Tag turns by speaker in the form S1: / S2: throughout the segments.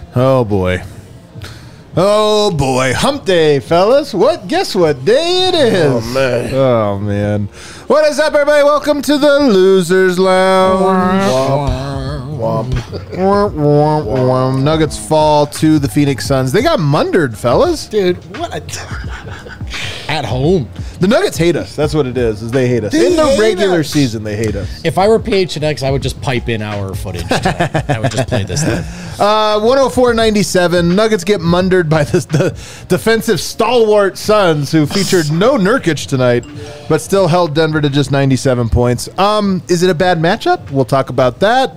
S1: Oh, boy. Oh, boy. Hump day, fellas. Guess what day it is?
S2: Oh, man.
S1: Oh, man. What is up, everybody? Welcome to the Losers Lounge.
S2: Womp.
S1: Womp. Nuggets fall to the Phoenix Suns. They got mundered, fellas.
S3: Dude, what at home.
S1: The Nuggets hate us. That's what it is they hate us.
S3: They
S1: In the
S3: hate
S1: regular
S3: us.
S1: season, they hate us.
S3: If I were PHNX, I would just pipe in our footage tonight. I would just play this thing.
S1: 104-97. Nuggets get mundered by the defensive stalwart Suns, who featured no Nurkic tonight, but still held Denver to just 97 points. Is it a bad matchup? We'll talk about that.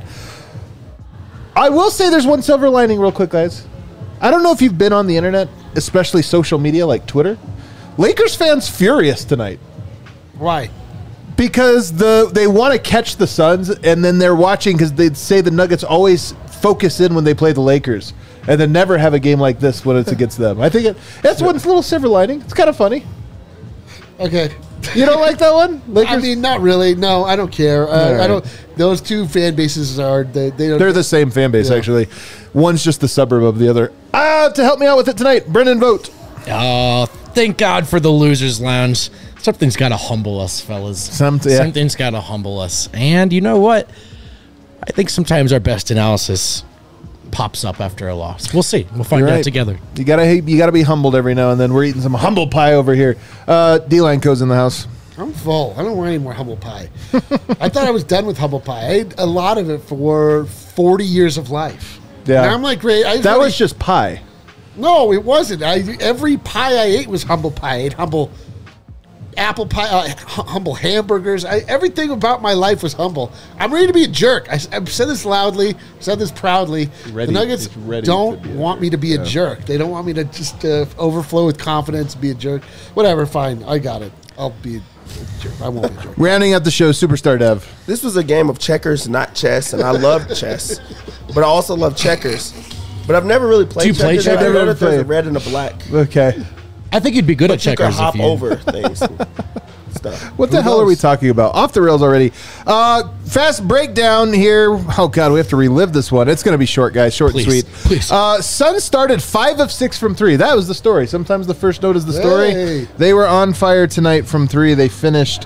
S1: I will say there's one silver lining real quick, guys. I don't know if you've been on the internet, especially social media like Twitter. Lakers fans furious tonight.
S3: Why?
S1: Because they want to catch the Suns, and then they're watching because they say the Nuggets always focus in when they play the Lakers, and then never have a game like this when it's against them. I think that's one little silver lining. It's kind of funny.
S3: Okay.
S1: You don't like that one? Lakers?
S3: I mean, not really. No, I don't care.
S1: All right.
S3: I don't. Those two fan bases are they don't.
S1: They're the same fan base,
S3: Yeah.
S1: actually. One's just the suburb of the other. To help me out with it tonight, Brennan Vogt.
S3: Oh, thank God for the Losers Lounge. Something's got to humble us, fellas. Something's got to humble us. And you know what? I think sometimes our best analysis pops up after a loss. We'll see. We'll find out together.
S1: You gotta be humbled every now and then. We're eating some humble pie over here. D-Line Co's in the house.
S4: I'm full. I don't want any more humble pie. I thought I was done with humble pie. I ate a lot of it for 40 years of life.
S1: Yeah.
S4: And I'm like, great.
S1: That was just pie.
S4: No, it wasn't. Every pie I ate was humble pie. I ate humble apple pie, humble hamburgers. Everything about my life was humble. I'm ready to be a jerk. I've said this loudly, said this proudly. The Nuggets don't want me to be a jerk. They don't want me to just overflow with confidence and be a jerk. Whatever, fine. I got it. I'll be a jerk. I won't be a jerk.
S1: Rounding out the show, Superstar Dev.
S2: This was a game of checkers, not chess, and I love chess, but I also love checkers. But I've never really played
S3: Do you play
S2: checkers. I
S3: checkers?
S2: know that there's a red and a black.
S1: Okay.
S3: I think you'd be good at
S2: But you can
S3: checkers
S2: hop
S3: if you
S2: over things and stuff.
S1: What the hell are we talking about? Off the rails already. Fast breakdown here. Oh, God, we have to relive this one. It's going to be short, guys. Short and sweet.
S3: Please.
S1: Suns started 5 of 6 from 3. That was the story. Sometimes the first note is the story.
S4: Hey.
S1: They were on fire tonight from 3. They finished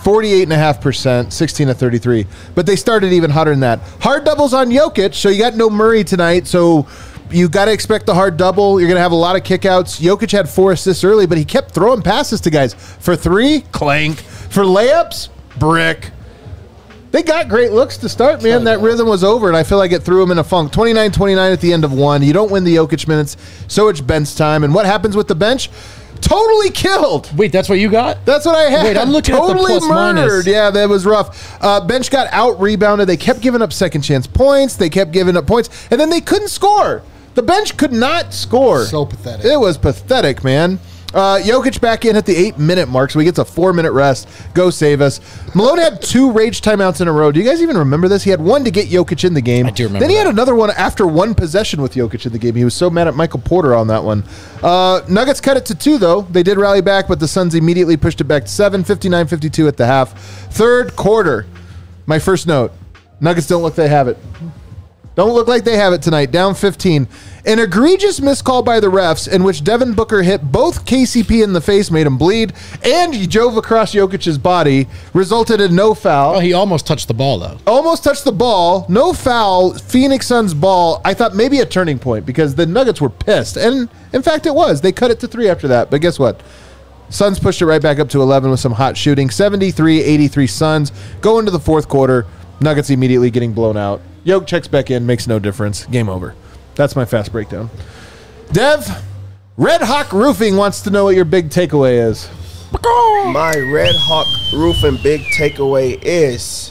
S1: 48.5%, 16 of 33. But they started even hotter than that. Hard doubles on Jokic, so you got no Murray tonight, so you got to expect the hard double. You're going to have a lot of kickouts. Jokic had 4 assists early, but he kept throwing passes to guys. For 3, clank. For layups, brick. They got great looks to start, man. That rhythm was over, and I feel like it threw him in a funk. 29-29 at the end of 1. You don't win the Jokic minutes, so it's bench time. And what happens with the bench? Totally killed.
S3: Wait, that's what you got?
S1: That's what I had.
S3: Wait, I'm looking
S1: totally
S3: at the plus
S1: murdered.
S3: minus.
S1: Yeah, that was rough. Bench got out-rebounded. They kept giving up second chance points. They kept giving up points, and then they couldn't score. The bench could not score.
S4: So pathetic.
S1: It was pathetic, man. Jokic back in at the 8-minute mark, so he gets a 4-minute rest. Go save us. Malone had 2 rage timeouts in a row. Do you guys even remember this? He had one to get Jokic in the game.
S3: I do remember
S1: Then he
S3: that.
S1: had another one after 1 possession with Jokic in the game. He was so mad at Michael Porter on that one. Nuggets cut it to 2, though. They did rally back, but the Suns immediately pushed it back to 7, 59-52 at the half. Third quarter. My first note. Nuggets don't look like they have it. Don't look like they have it tonight. Down 15. An egregious miscall by the refs in which Devin Booker hit both KCP in the face, made him bleed, and drove across Jokic's body, resulted in no foul.
S3: Oh, he almost touched the ball, though.
S1: Almost touched the ball. No foul. Phoenix Suns ball. I thought maybe a turning point because the Nuggets were pissed. And, in fact, it was. They cut it to 3 after that. But guess what? Suns pushed it right back up to 11 with some hot shooting. 73-83 Suns. Go into the fourth quarter. Nuggets immediately getting blown out. Jokic checks back in. Makes no difference. Game over. That's my fast breakdown. Dev, Red Hawk Roofing wants to know what your big takeaway is.
S2: My Red Hawk Roofing big takeaway is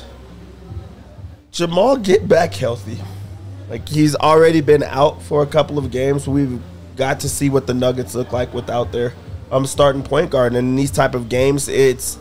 S2: Jamal get back healthy. Like, he's already been out for a couple of games. We've got to see what the Nuggets look like without their starting point guard. And in these type of games, it's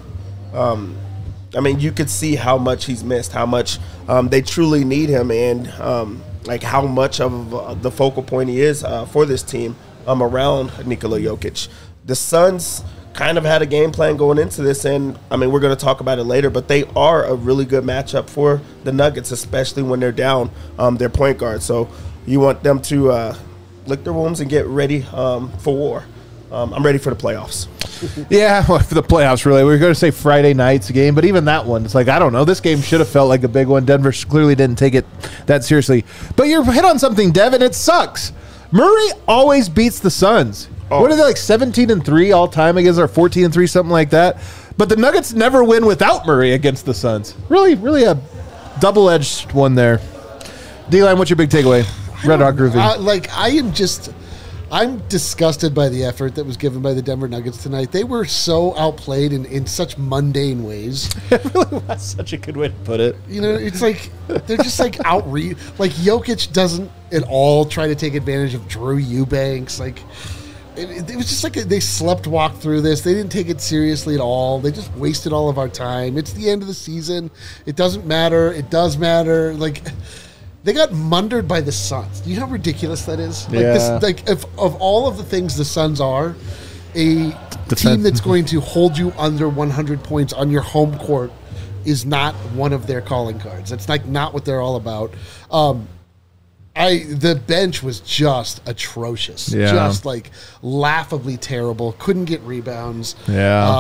S2: I mean, you could see how much he's missed, how much they truly need him, and like how much of the focal point he is for this team around Nikola Jokic. The Suns kind of had a game plan going into this, and I mean, we're going to talk about it later, but they are a really good matchup for the Nuggets, especially when they're down their point guard. So You want them to lick their wounds and get ready for war. I'm ready for the playoffs.
S1: Yeah, well, for the playoffs, really. We were going to say Friday night's game, but even that one, it's like, I don't know. This game should have felt like a big one. Denver clearly didn't take it that seriously. But you're hit on something, Devin. It sucks. Murray always beats the Suns. Oh. What are they, like 17-3 all time against, or 14-3, something like that? But the Nuggets never win without Murray against the Suns. Really, really a double-edged one there. D-Line, what's your big takeaway? Red Hawk Roofing. I'm disgusted by the effort that was given by the Denver Nuggets tonight. They were so outplayed in such mundane ways. It really was such a good way to put it. You know, it's like they're just like like Jokic doesn't at all try to take advantage of Drew Eubanks. Like it was just like they sleptwalked through this. They didn't take it seriously at all. They just wasted all of our time. It's the end of the season. It doesn't matter. It does matter. Like, they got mundered by the Suns. Do you know how ridiculous that is? Like of all of the things the Suns are, a team that's going to hold you under 100 points on your home court is not one of their calling cards. That's like not what they're all about. The bench was just atrocious. Yeah. Just like laughably terrible. Couldn't get rebounds. Yeah.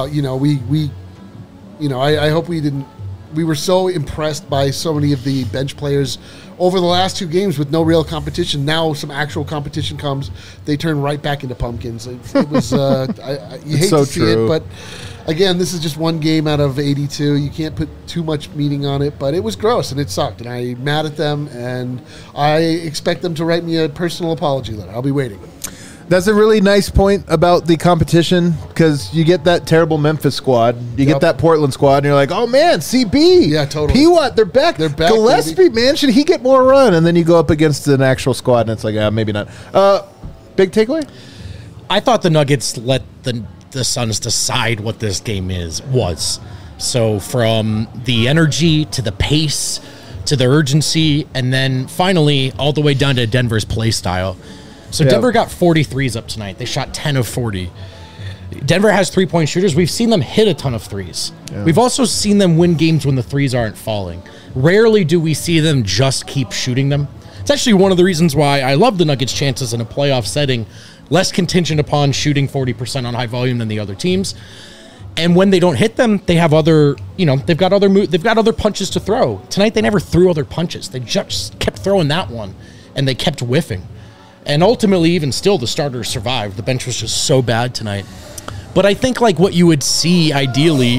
S1: I hope we didn't. We were so impressed by so many of the bench players over the last two games with no real competition. Now some actual competition comes, they turn right back into pumpkins. It was you hate to see it, but again, this is just one game out of 82. You can't put too much meaning on it, but it was gross and it sucked, and I'm mad at them, and I expect them to write me a personal apology letter. I'll be waiting. That's a really nice point about the competition, because you get that terrible Memphis squad, you get that Portland squad, and you're like, oh man, CB,
S4: yeah, totally.
S1: P-Watt, they're back. Gillespie, man, should he get more run? And then you go up against an actual squad, and it's like, maybe not. Big takeaway?
S3: I thought the Nuggets let the Suns decide what this game was. So from the energy to the pace to the urgency, and then finally all the way down to Denver's play style. So Denver got 43s up tonight. They shot 10 of 40. Denver has three-point shooters. We've seen them hit a ton of threes. Yeah. We've also seen them win games when the threes aren't falling. Rarely do we see them just keep shooting them. It's actually one of the reasons why I love the Nuggets' chances in a playoff setting, less contingent upon shooting 40% on high volume than the other teams. And when they don't hit them, they have they've got other punches to throw. Tonight they never threw other punches. They just kept throwing that one, and they kept whiffing. And ultimately, even still, the starters survived. The bench was just so bad tonight. But I think like what you would see ideally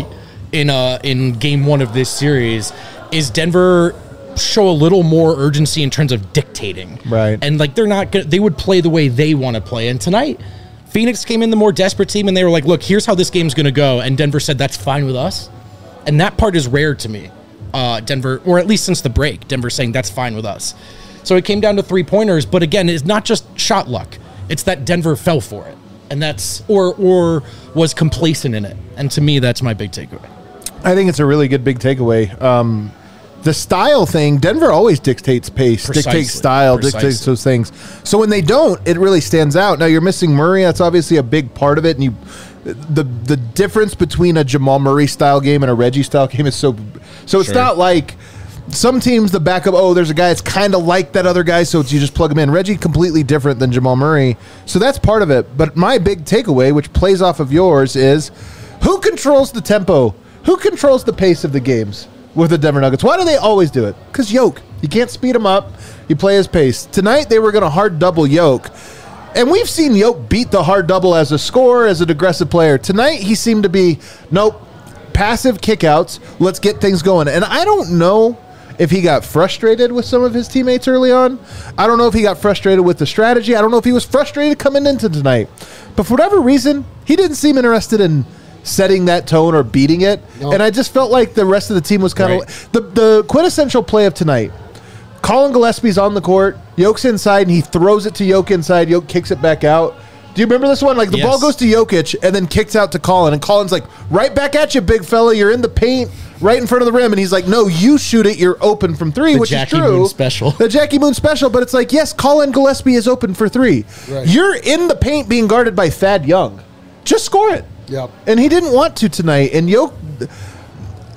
S3: in game one of this series is Denver show a little more urgency in terms of dictating.
S1: Right.
S3: And like they would play the way they want to play. And tonight, Phoenix came in the more desperate team, and they were like, look, here's how this game's going to go. And Denver said, that's fine with us. And that part is rare to me. Denver, or at least since the break, Denver saying that's fine with us. So it came down to three-pointers, but again, it's not just shot luck. It's that Denver fell for it, and that's or was complacent in it. And to me, that's my big takeaway.
S1: I think it's a really good big takeaway. The style thing, Denver always dictates pace, dictates style, dictates those things. So when they don't, it really stands out. Now you're missing Murray. That's obviously a big part of it. And the difference between a Jamal Murray style game and a Reggie style game is so it's not like some teams, the backup, there's a guy that's kind of like that other guy, so you just plug him in. Reggie, completely different than Jamal Murray. So that's part of it. But my big takeaway, which plays off of yours, is who controls the tempo? Who controls the pace of the games with the Denver Nuggets? Why do they always do it? Because Yoke. You can't speed him up. You play his pace. Tonight, they were going to hard double Yoke. And we've seen Yoke beat the hard double as a scorer, as an aggressive player. Tonight, he seemed to be, nope, passive kickouts. Let's get things going. And I don't know if he got frustrated with some of his teammates early on. I don't know if he got frustrated with the strategy. I don't know if he was frustrated coming into tonight. But for whatever reason, he didn't seem interested in setting that tone or beating it. Nope. And I just felt like the rest of the team was kind of the quintessential play of tonight. Colin Gillespie's on the court. Yoke's inside, and he throws it to Yoke inside. Yoke kicks it back out. Do you remember this one? Like the ball goes to Jokic and then kicks out to Colin. And Colin's like, right back at you, big fella. You're in the paint right in front of the rim. And he's like, no, you shoot it. You're open from three, which is true.
S3: Moon special.
S1: The Jackie Moon special. But it's like, yes, Colin Gillespie is open for three. Right. You're in the paint being guarded by Thad Young. Just score it.
S4: Yep.
S1: And he didn't want to tonight. And Yoke,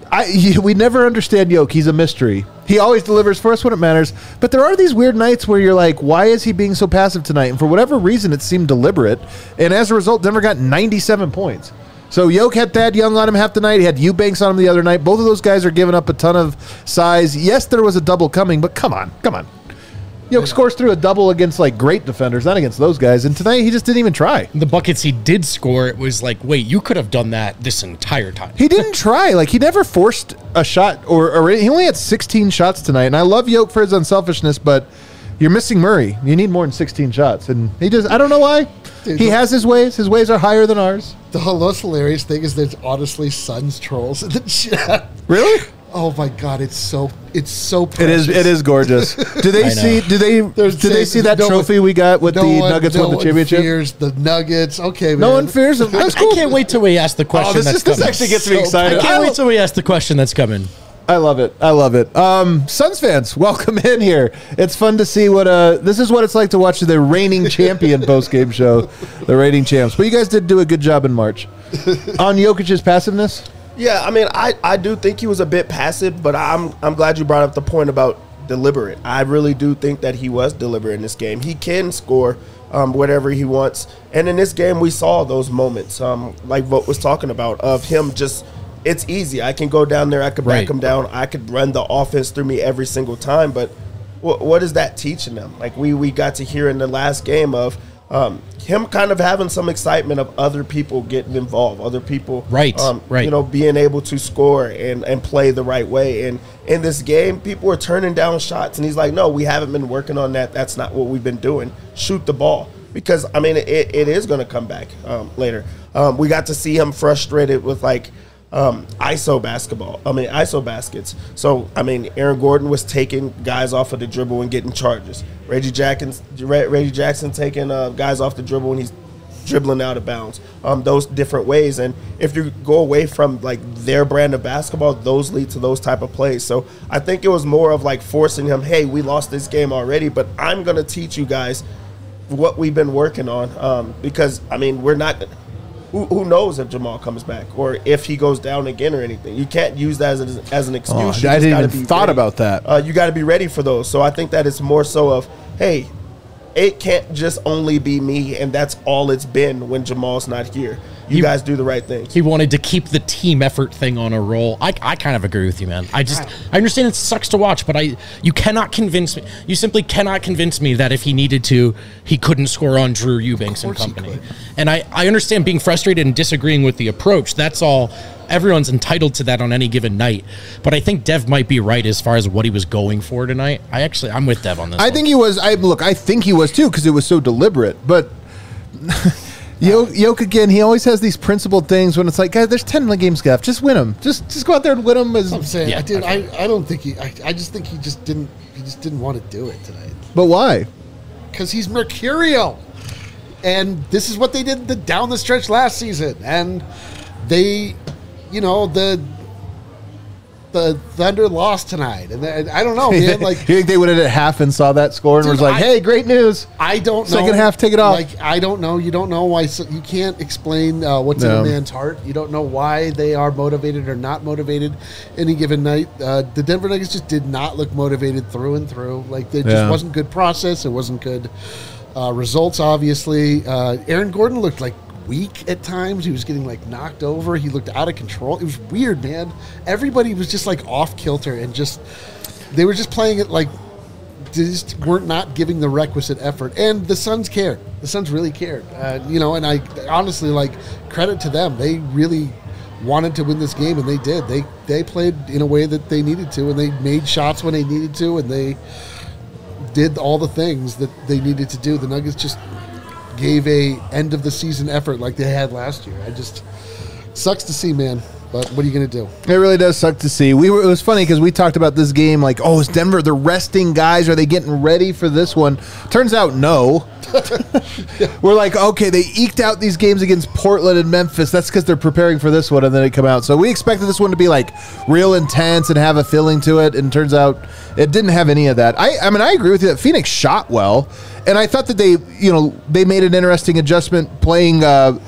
S1: We never understand Yoke. He's a mystery. He always delivers for us when it matters. But there are these weird nights where you're like, why is he being so passive tonight? And for whatever reason, it seemed deliberate. And as a result, Denver got 97 points. So Yoke had Thad Young on him half the night. He had Eubanks on him the other night. Both of those guys are giving up a ton of size. Yes, there was a double coming, but come on. Yoke scores through a double against like great defenders, not against those guys. And tonight he just didn't even try.
S3: The buckets he did score, it was like, wait, you could have done that this entire time.
S1: He didn't try. Like, he never forced a shot, or he only had 16 shots tonight. And I love Yoke for his unselfishness, but you're missing Murray. You need more than 16 shots. And he just, I don't know why. Dude, he has his ways. His ways are higher than ours.
S4: The most hilarious thing is there's honestly Suns trolls in the chat.
S1: Really?
S4: Oh my God! It's so precious.
S1: It is gorgeous. Do they see? Do they see that trophy we got with the Nuggets won the championship?
S4: No one fears the Nuggets. Okay, man.
S1: No one fears them.
S3: That's cool. I can't wait till we ask the question. This
S1: actually gets me excited.
S3: I can't wait till we ask the question that's coming.
S1: I love it. Suns fans, welcome in here. It's fun to see what this is what it's like to watch the reigning champion post-game show, the reigning champs. But you guys did do a good job in March on Jokic's passiveness.
S2: Yeah, I mean, I do think he was a bit passive, but I'm glad you brought up the point about deliberate. I really do think that he was deliberate in this game. He can score whatever he wants, and in this game we saw those moments, like Vogt was talking about, of him just. It's easy. I can go down there. I could back him down. I could run the offense through me every single time. But what is that teaching them? Like we got to hear in the last game of him kind of having some excitement of other people getting involved, other people, being able to score and play the right way. And in this game, people are turning down shots, and he's like, "No, we haven't been working on that. That's not what we've been doing. Shoot the ball." Because I mean, it is going to come back later. We got to see him frustrated with ISO baskets. So, I mean, Aaron Gordon was taking guys off of the dribble and getting charges. Reggie Jackson taking guys off the dribble and he's dribbling out of bounds. Those different ways. And if you go away from, like, their brand of basketball, those lead to those type of plays. So I think it was more of, like, forcing him, hey, we lost this game already, but I'm going to teach you guys what we've been working on. Because, I mean, we're not – Who knows if Jamal comes back or if he goes down again or anything? You can't use that as an excuse.
S1: I didn't even thought about that.
S2: You got to be ready for those. So I think that it's more so of, hey, it can't just only be me, and that's all it's been when Jamal's not here. You guys do the right thing.
S3: He wanted to keep the team effort thing on a roll. I kind of agree with you, man. I understand it sucks to watch, but you cannot convince me. You simply cannot convince me that if he needed to, he couldn't score on Drew Eubanks and company. And I understand being frustrated and disagreeing with the approach. That's all. Everyone's entitled to that on any given night. But I think Dev might be right as far as what he was going for tonight. I'm with Dev on this.
S1: I think he was. I think he was too because it was so deliberate. But Yoke again, he always has these principled things when it's like, guys, there's 10 games left. Just win them. Just go out there and win them.
S4: I'm saying, I don't think I just think he just didn't want to do it tonight.
S1: But why?
S4: Because he's mercurial, and this is what they did down the stretch last season, and they, the Thunder lost tonight, and I don't know, man. Like,
S1: you think they went in at half and saw that score and was like, "Hey, great news."
S4: I don't know.
S1: Second half, take it off.
S4: Like, I don't know. You don't know why. You can't explain what's in a man's heart. You don't know why they are motivated or not motivated any given night. The Denver Nuggets just did not look motivated through and through. Like, there just wasn't good process. It wasn't good results. Obviously, Aaron Gordon looked like weak at times. He was getting knocked over. He looked out of control. It was weird, man. Everybody was just off kilter and they were just playing it like they just weren't not giving the requisite effort. And the Suns cared. The Suns really cared. And I honestly credit to them. They really wanted to win this game, and they did. They played in a way that they needed to, and they made shots when they needed to, and they did all the things that they needed to do. The Nuggets just gave a end of the season effort like they had last year. Sucks to see, man. But what are you going to do?
S1: It really does suck to see. It was funny because we talked about this game like, is Denver, they're resting guys. Are they getting ready for this one? Turns out, no. We're like, okay, they eked out these games against Portland and Memphis. That's because they're preparing for this one, and then they come out. So we expected this one to be real intense and have a feeling to it, and turns out it didn't have any of that. I mean, I agree with you that Phoenix shot well, and I thought that they made an interesting adjustment playing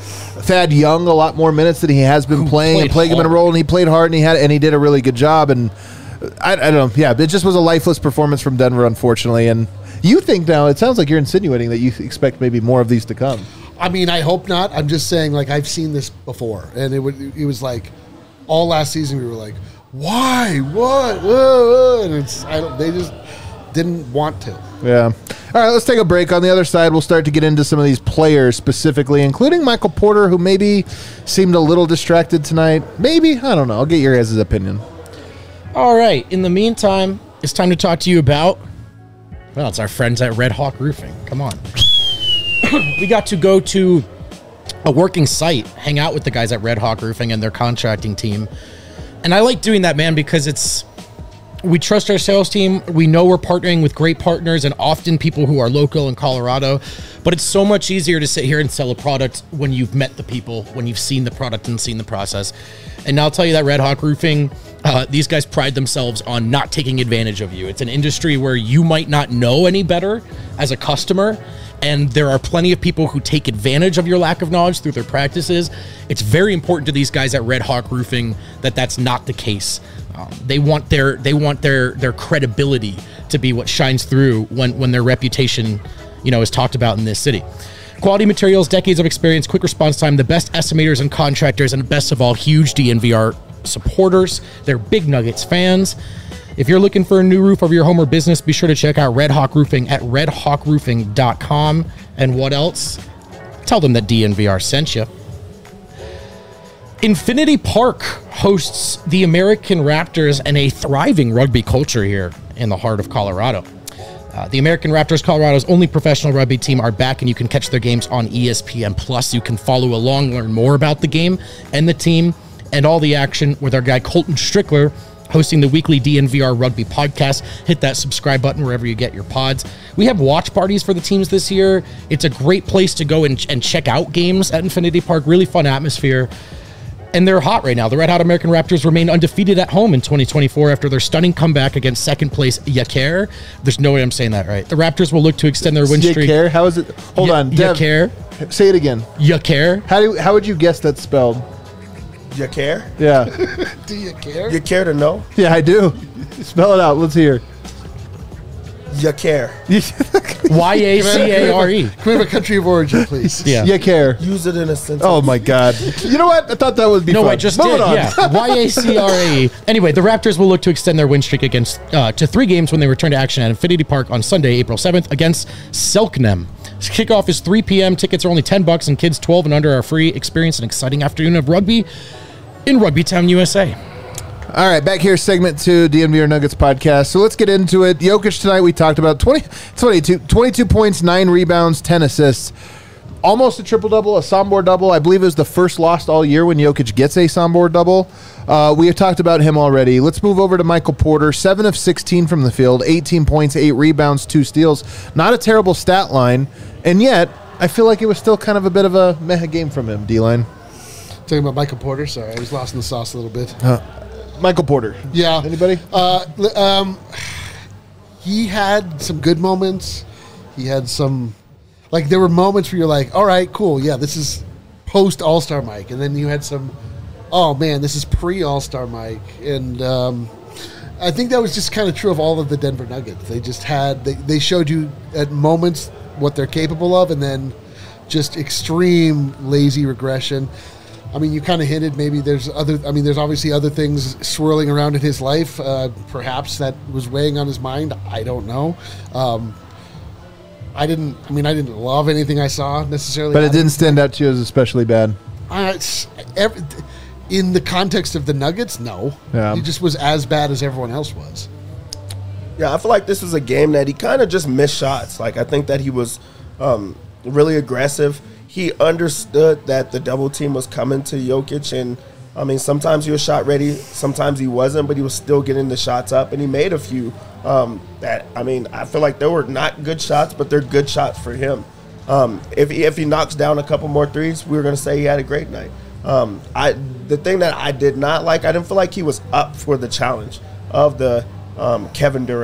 S1: Thad Young a lot more minutes than he has been playing, and playing him in a role, and he played hard, and he did a really good job. And I don't know. Yeah, it just was a lifeless performance from Denver, unfortunately. And you think now, it sounds like you're insinuating that you expect maybe more of these to come.
S4: I mean, I hope not. I'm just saying, like, I've seen this before, and it was like all last season we were like, why, what, whoa. And they just didn't want to.
S1: Yeah. All right, let's take a break. On the other side, we'll start to get into some of these players specifically, including Michael Porter, who maybe seemed a little distracted tonight. Maybe, I don't know. I'll get your guys' opinion.
S3: All right. In the meantime, it's time to talk to you about, well, it's our friends at Red Hawk Roofing. Come on. We got to go to a working site, hang out with the guys at Red Hawk Roofing and their contracting team. And I like doing that, man, because we trust our sales team. We know we're partnering with great partners and often people who are local in Colorado. But it's so much easier to sit here and sell a product when you've met the people, when you've seen the product and seen the process. And I'll tell you that Red Hawk Roofing, these guys pride themselves on not taking advantage of you. It's an industry where you might not know any better as a customer, and there are plenty of people who take advantage of your lack of knowledge through their practices. It's very important to these guys at Red Hawk Roofing that that's not the case. They want their credibility to be what shines through when their reputation, is talked about in this city. Quality materials, decades of experience, quick response time, the best estimators and contractors, and best of all, huge DNVR supporters. They're big Nuggets fans. If you're looking for a new roof over your home or business, be sure to check out Red Hawk Roofing at redhawkroofing.com. And what else? Tell them that DNVR sent you. Infinity Park hosts the American Raptors and a thriving rugby culture here in the heart of Colorado. The American Raptors, Colorado's only professional rugby team, are back, and you can catch their games on ESPN+. You can follow along, learn more about the game and the team and all the action with our guy Colton Strickler, hosting the weekly DNVR Rugby podcast. Hit that subscribe button wherever you get your pods. We have watch parties for the teams this year. It's a great place to go and check out games at Infinity Park. Really fun atmosphere. And they're hot right now. The Red Hot American Raptors remain undefeated at home in 2024 after their stunning comeback against second place Yaker. There's no way I'm saying that right. The Raptors will look to extend their win streak.
S1: Yaker? How is it? Hold on. Dev,
S3: Yaker.
S1: say it again.
S3: Yaker.
S1: How would you guess that's spelled?
S2: You care?
S1: Yeah.
S4: Do you care?
S2: You care to know?
S1: Yeah, I do. Spell it out. Let's hear.
S2: You care.
S3: Y-A-C-A-R-E.
S4: Can we have a country of origin, please?
S3: Yeah.
S1: You care.
S2: Use it in a sentence.
S1: Oh, my God. You know what? I thought that would be fun.
S3: No, I just
S1: Moving
S3: did.
S1: on.
S3: Yeah. Y-A-C-R-A-E. Anyway, the Raptors will look to extend their win streak against to 3 games when they return to action at Infinity Park on Sunday, April 7th against Selknam. Kickoff is 3 p.m. Tickets are only $10, and kids 12 and under are free. Experience an exciting afternoon of rugby in Rugbytown, USA.
S1: All right, back here, segment 2, DNVR Nuggets podcast. So let's get into it. Jokic tonight, we talked about 22 points, 9 rebounds, 10 assists. Almost a triple-double, a Sombor double. I believe it was the first loss all year when Jokic gets a Sombor double. We have talked about him already. Let's move over to Michael Porter. 7 of 16 from the field, 18 points, 8 rebounds, 2 steals. Not a terrible stat line, and yet I feel like it was still kind of a bit of a meh game from him, D-line.
S4: Talking about Michael Porter. Sorry, I was lost in the sauce a little bit.
S1: Michael Porter.
S4: Yeah.
S1: Anybody?
S4: He had some good moments. He had some, like, there were moments where you're like, all right, cool. Yeah, this is post All-Star Mike. And then you had some, oh, man, this is pre-All-Star Mike. And I think that was just kind of true of all of the Denver Nuggets. They just had, they showed you at moments what they're capable of, and then just extreme lazy regression. I mean, you kind of hinted maybe there's obviously other things swirling around in his life. Perhaps that was weighing on his mind. I don't know. I didn't love anything I saw necessarily.
S1: But it didn't stand out to you as especially bad.
S4: In the context of the Nuggets, no.
S1: Yeah.
S4: He just was as bad as everyone else was.
S2: Yeah, I feel like this was a game that he kind of just missed shots. Like, I think that he was really aggressive. He understood that the double team was coming to Jokic, and I mean, sometimes he was shot ready, sometimes he wasn't, but he was still getting the shots up, and he made a few that, I mean, I feel like they were not good shots, but they're good shots for him. If he knocks down a couple more threes, we were going to say he had a great night. The thing that I didn't feel like he was up for the challenge of the Kevin Durant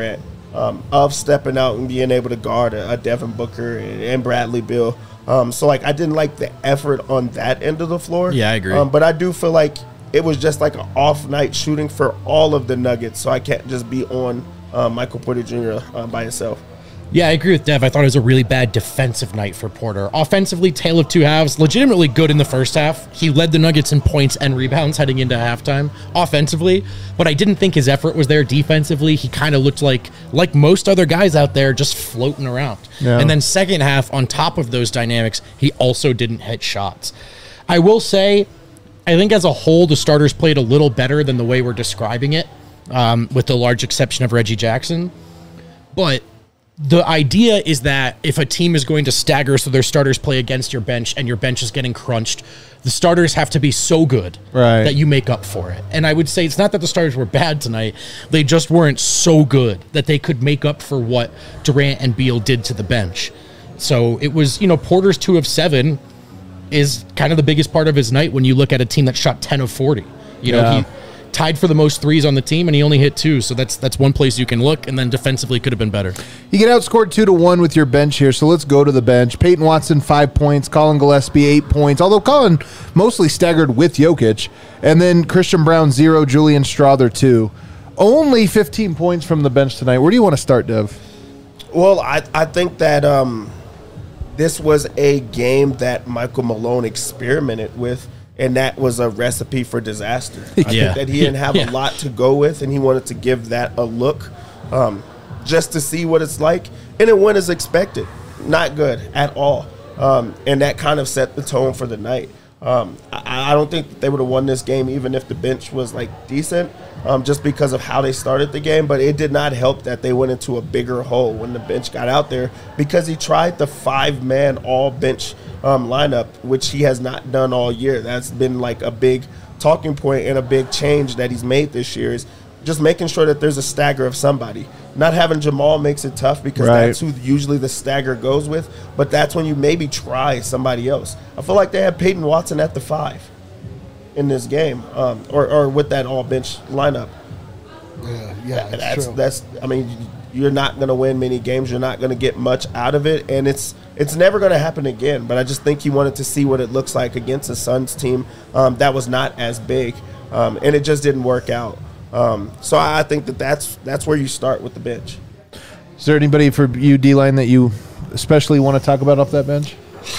S2: of stepping out and being able to guard a Devin Booker and Bradley Beal. So, like, I didn't like the effort on that end of the floor.
S3: Yeah, I agree.
S2: But I do feel like it was just like an off night shooting for all of the Nuggets, so I can't just be on Michael Porter Jr. By himself.
S3: Yeah, I agree with Dev. I thought it was a really bad defensive night for Porter. Offensively, tale of two halves. Legitimately good in the first half. He led the Nuggets in points and rebounds heading into halftime offensively, but I didn't think his effort was there defensively. He kind of looked like most other guys out there, just floating around. Yeah. And then second half, on top of those dynamics, he also didn't hit shots. I will say, I think as a whole, the starters played a little better than the way we're describing it, with the large exception of Reggie Jackson. But the idea is that if a team is going to stagger so their starters play against your bench and your bench is getting crunched, the starters have to be so good that you make up for it. And I would say it's not that the starters were bad tonight. They just weren't so good that they could make up for what Durant and Beal did to the bench. So it was, Porter's 2 of 7 is kind of the biggest part of his night when you look at a team that shot 10 of 40. He tied for the most threes on the team, and he only hit 2. So that's one place you can look, and then defensively could have been better.
S1: You get outscored 2-1 with your bench here, so let's go to the bench. Peyton Watson, 5 points. Colin Gillespie, 8 points, although Colin mostly staggered with Jokic. And then Christian Braun, 0. Julian Strawther, 2. Only 15 points from the bench tonight. Where do you want to start, Dev?
S2: Well, I think that this was a game that Michael Malone experimented with, and that was a recipe for disaster. I think that he didn't have a lot to go with, and he wanted to give that a look just to see what it's like. And it went as expected. Not good at all. And that kind of set the tone for the night. I don't think that they would have won this game even if the bench was, decent, just because of how they started the game. But it did not help that they went into a bigger hole when the bench got out there, because he tried the 5-man all-bench lineup, which he has not done all year. That's been a big talking point and a big change that he's made this year, is just making sure that there's a stagger of somebody. Not having Jamal makes it tough, because that's who usually the stagger goes with, but that's when you maybe try somebody else. I feel like they had Peyton Watson at the 5 in this game, or with that all-bench lineup. That's true. I mean, you're not going to win many games. You're not going to get much out of it, and it's never going to happen again. But I just think he wanted to see what it looks like against a Suns team that was not as big, and it just didn't work out. So I think that's where you start with the bench.
S1: Is there anybody for you, D-Line, that you especially want to talk about off that bench?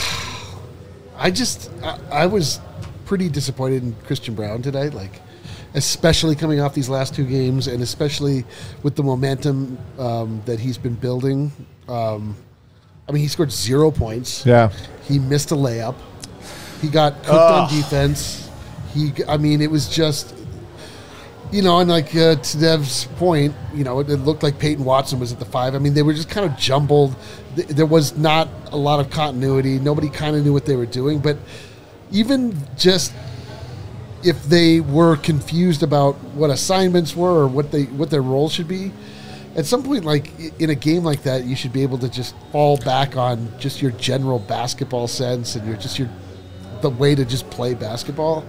S4: I was pretty disappointed in Christian Braun today, especially coming off these last 2 games, and especially with the momentum that he's been building. He scored 0 points. Yeah, he missed a layup. He got cooked on defense. It was just. To Dev's point, it looked like Peyton Watson was at the 5. They were just kind of jumbled. There was not a lot of continuity. Nobody kind of knew what they were doing. But even just if they were confused about what assignments were or what their role should be, at some point, in a game like that, you should be able to just fall back on just your general basketball sense and the way to just play basketball.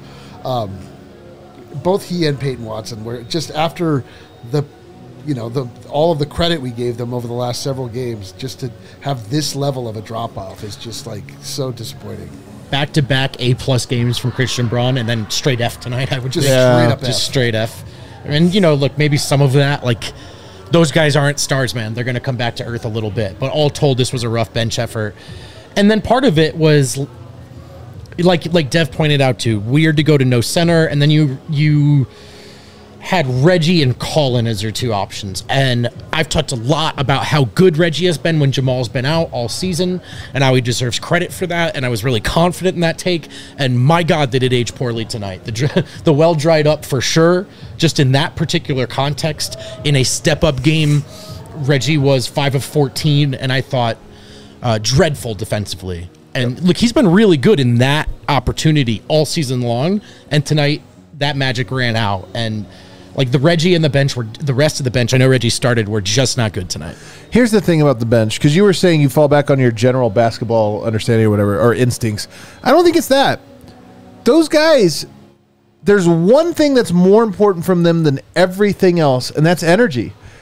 S4: Both he and Peyton Watson were just, after all of the credit we gave them over the last several games, just to have this level of a drop off is just so disappointing.
S3: Back-to-back A+ games from Christian Braun, and then straight F tonight. I would just straight F. And look, maybe some of that, those guys aren't stars, man. They're going to come back to earth a little bit. But all told, this was a rough bench effort. And then part of it was, like Dev pointed out too, weird to go to no center, and then you had Reggie and Colin as your 2 options. And I've talked a lot about how good Reggie has been when Jamal's been out all season, and how he deserves credit for that, and I was really confident in that take, and my God, did it age poorly tonight. The well dried up for sure, just in that particular context. In a step-up game, Reggie was 5 of 14, and I thought dreadful defensively. And look, he's been really good in that opportunity all season long. And tonight, that magic ran out. And the Reggie and the rest of the bench, I know Reggie started, were just not good tonight.
S1: Here's the thing about the bench, because you were saying you fall back on your general basketball understanding or whatever, or instincts. I don't think it's that. Those guys, there's one thing that's more important from them than everything else, and that's energy.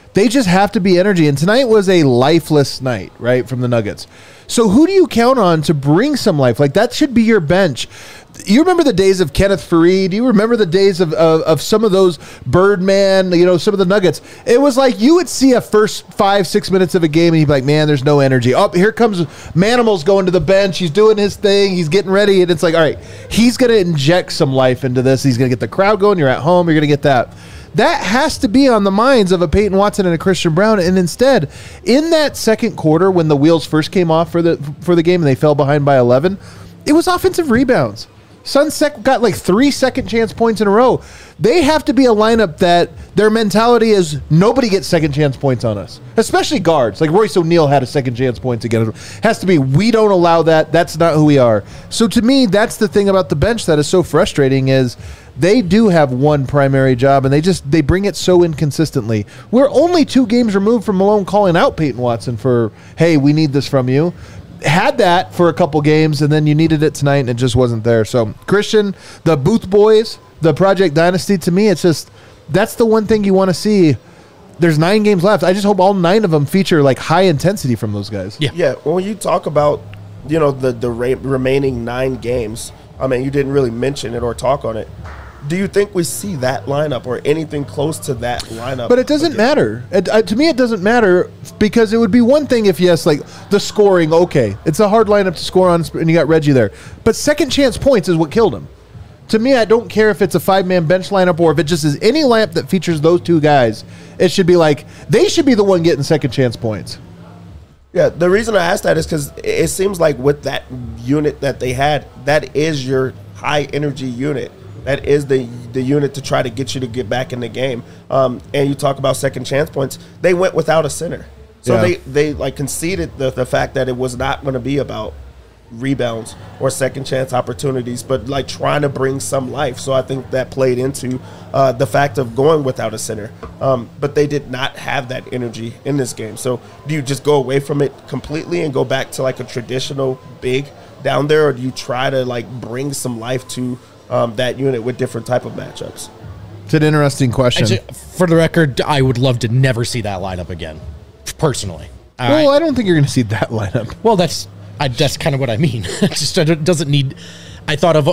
S1: They just have to be energy. And tonight was a lifeless night, right, from the Nuggets. So who do you count on to bring some life? Like, that should be your bench. You remember the days of Kenneth Faried? You remember the days of some of those Birdman, some of the Nuggets? It was like you would see a first 5-6 minutes of a game and you'd be like, man, there's no energy. Oh, here comes Manimal's going to the bench. He's doing his thing. He's getting ready. And it's like, all right, he's going to inject some life into this. He's going to get the crowd going. You're at home. You're going to get that. That has to be on the minds of a Peyton Watson and a Christian Braun. And instead, in that second quarter, when the wheels first came off for the game and they fell behind by 11, it was offensive rebounds. Sunset got like 3 second chance points in a row. They have to be a lineup that their mentality is nobody gets second chance points on us, especially guards. Like Royce O'Neal had a second chance points against us. Has to be, we don't allow that. That's not who we are. So to me, that's the thing about the bench that is so frustrating is they do have one primary job and they bring it so inconsistently. We're only 2 games removed from Malone calling out Peyton Watson for, hey, we need this from you. Had that for a couple games, and then you needed it tonight, and it just wasn't there. So, Christian, the Booth Boys, the Project Dynasty, to me, it's just, that's the one thing you want to see. There's 9 games left. I just hope all 9 of them feature, like, high intensity from those guys.
S2: Yeah. When you talk about, the remaining 9 games, I mean, you didn't really mention it or talk on it. Do you think we see that lineup or anything close to that lineup?
S1: But it doesn't matter. To me, it doesn't matter because it would be one thing if, yes, like the scoring, okay. It's a hard lineup to score on, and you got Reggie there. But second chance points is what killed him. To me, I don't care if it's a 5-man bench lineup or if it just is any lineup that features those 2 guys. It should be like they should be the one getting second chance points.
S2: Yeah, the reason I asked that is because it seems like with that unit that they had, that is your high-energy unit. That is the unit to try to get you to get back in the game. And you talk about second chance points. They went without a center. So they like conceded the fact that it was not going to be about rebounds or second chance opportunities, but like trying to bring some life. So I think that played into the fact of going without a center. But they did not have that energy in this game. So do you just go away from it completely and go back to like a traditional big down there, or do you try to like bring some life to that unit with different type of matchups?
S1: It's an interesting question.
S3: Actually, for the record, I would love to never see that lineup again, personally.
S1: Well, I don't think you're going to see that lineup.
S3: Well, that's kind of what I mean. It doesn't need. I thought of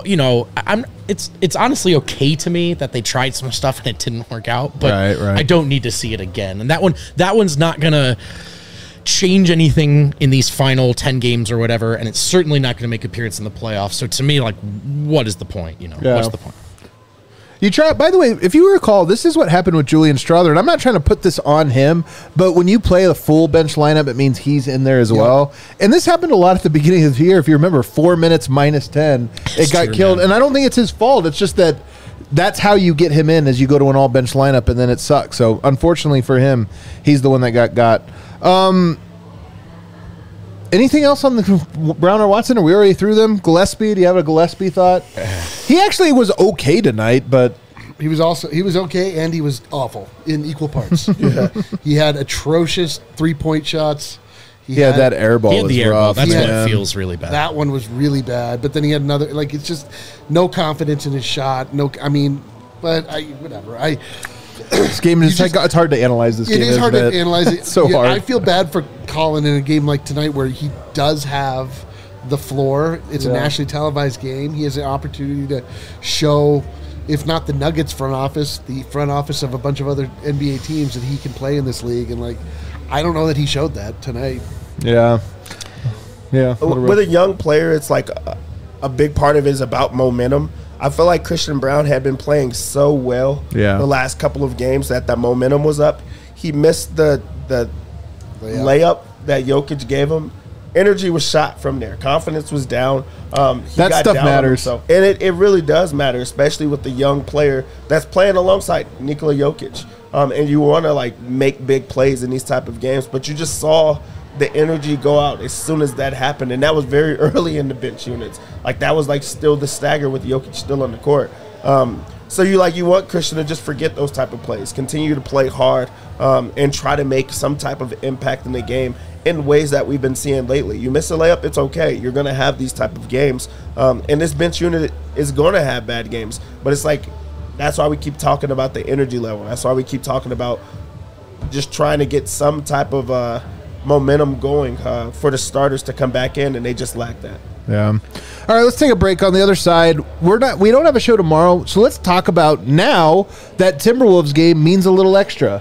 S3: It's honestly okay to me that they tried some stuff and it didn't work out, but
S1: right.
S3: I don't need to see it again. And that one's not gonna change anything in these final 10 games or whatever, and it's certainly not going to make appearance in the playoffs. So to me, like, what is the point? What's the point?
S1: You try. By the way, if you recall, this is what happened with Julian Strawther, and I'm not trying to put this on him, but when you play a full bench lineup, it means he's in there as well. And this happened a lot at the beginning of the year. If you remember, 4 minutes minus 10, it got killed. Man. And I don't think it's his fault. It's just that that's how you get him in, as you go to an all bench lineup, and then it sucks. So unfortunately for him, he's the one that got. Anything else on the Brown or Watson? Are we already through them? Gillespie, do you have a Gillespie thought? He actually was okay tonight, but
S4: he was okay and he was awful in equal parts. He had atrocious 3-point shots.
S1: He had that air ball.
S3: He had the air ball. That's what it feels really bad.
S4: That one was really bad. But then he had another. Like, it's just no confidence in his shot. Whatever.
S1: This game is it's hard to analyze this game.
S4: It is hard to analyze it.
S1: So hard.
S4: I feel bad for Colin in a game like tonight where he does have the floor. It's a nationally televised game. He has an opportunity to show, if not the Nuggets front office, the front office of a bunch of other NBA teams that he can play in this league. And I don't know that he showed that tonight.
S1: Yeah.
S2: With a young player, it's like a big part of it is about momentum. I feel like Christian Braun had been playing so well the last couple of games that the momentum was up. He missed the layup that Jokic gave him. Energy was shot from there. Confidence was down.
S1: That stuff matters.
S2: And it really does matter, especially with the young player that's playing alongside Nikola Jokic. And you want to make big plays in these type of games, but you just saw the energy go out as soon as that happened, and that was very early in the bench units. That was still the stagger with Jokic still on the court. So you want Christian to just forget those type of plays, continue to play hard, and try to make some type of impact in the game in ways that we've been seeing lately. You miss a layup, it's okay. You're going to have these type of games, and this bench unit is going to have bad games. But it's that's why we keep talking about the energy level. That's why we keep talking about just trying to get some type of momentum going for the starters to come back in, and they just lack that.
S1: Yeah. All right, let's take a break. On the other side, we don't have a show tomorrow, so let's talk about now that Timberwolves game means a little extra.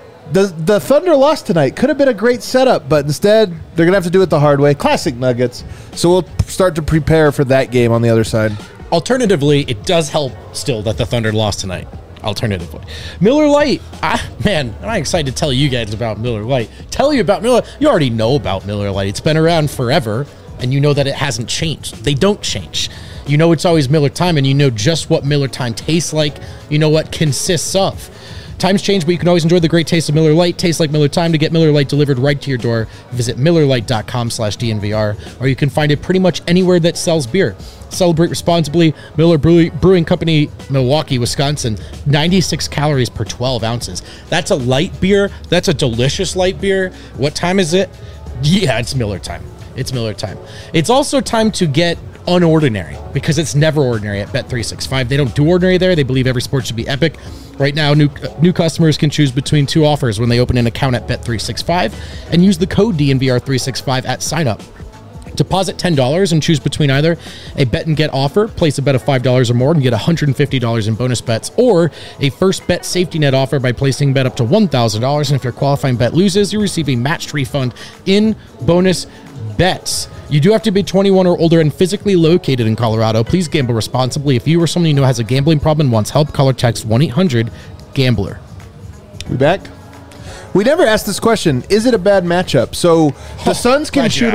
S1: The Thunder lost tonight. Could have been a great setup, but instead they're going to have to do it the hard way. Classic Nuggets. So we'll start to prepare for that game on the other side.
S3: Alternatively, it does help still that the Thunder lost tonight. Alternatively, Miller Lite. Man, I'm excited to tell you guys about Miller Lite. Tell you about Miller. You already know about Miller Lite. It's been around forever, and you know that it hasn't changed. They don't change. You know it's always Miller Time, and you know just what Miller Time tastes like. You know what consists of. Times change, but you can always enjoy the great taste of Miller Lite. Tastes like Miller Time. To get Miller Lite delivered right to your door, visit MillerLite.com/DNVR, or you can find it pretty much anywhere that sells beer. Celebrate responsibly. Miller Brewing Company, Milwaukee, Wisconsin. 96 calories per 12 ounces. That's a light beer. That's a delicious light beer. What time is it? Yeah, it's Miller Time. It's Miller Time. It's also time to get unordinary, because it's never ordinary at Bet365. They don't do ordinary there. They believe every sport should be epic. Right now, new customers can choose between two offers when they open an account at Bet365 and use the code DNVR365 at sign-up. Deposit $10 and choose between either a bet and get offer, place a bet of $5 or more and get $150 in bonus bets, or a first bet safety net offer by placing a bet up to $1,000. And if your qualifying bet loses, you receive a matched refund in bonus bets. You do have to be 21 or older and physically located in Colorado. Please gamble responsibly. If you or someone you know has a gambling problem and wants help, call or text 1-800-GAMBLER.
S1: We back? We never asked this question. Is it a bad matchup? So the Suns can shoot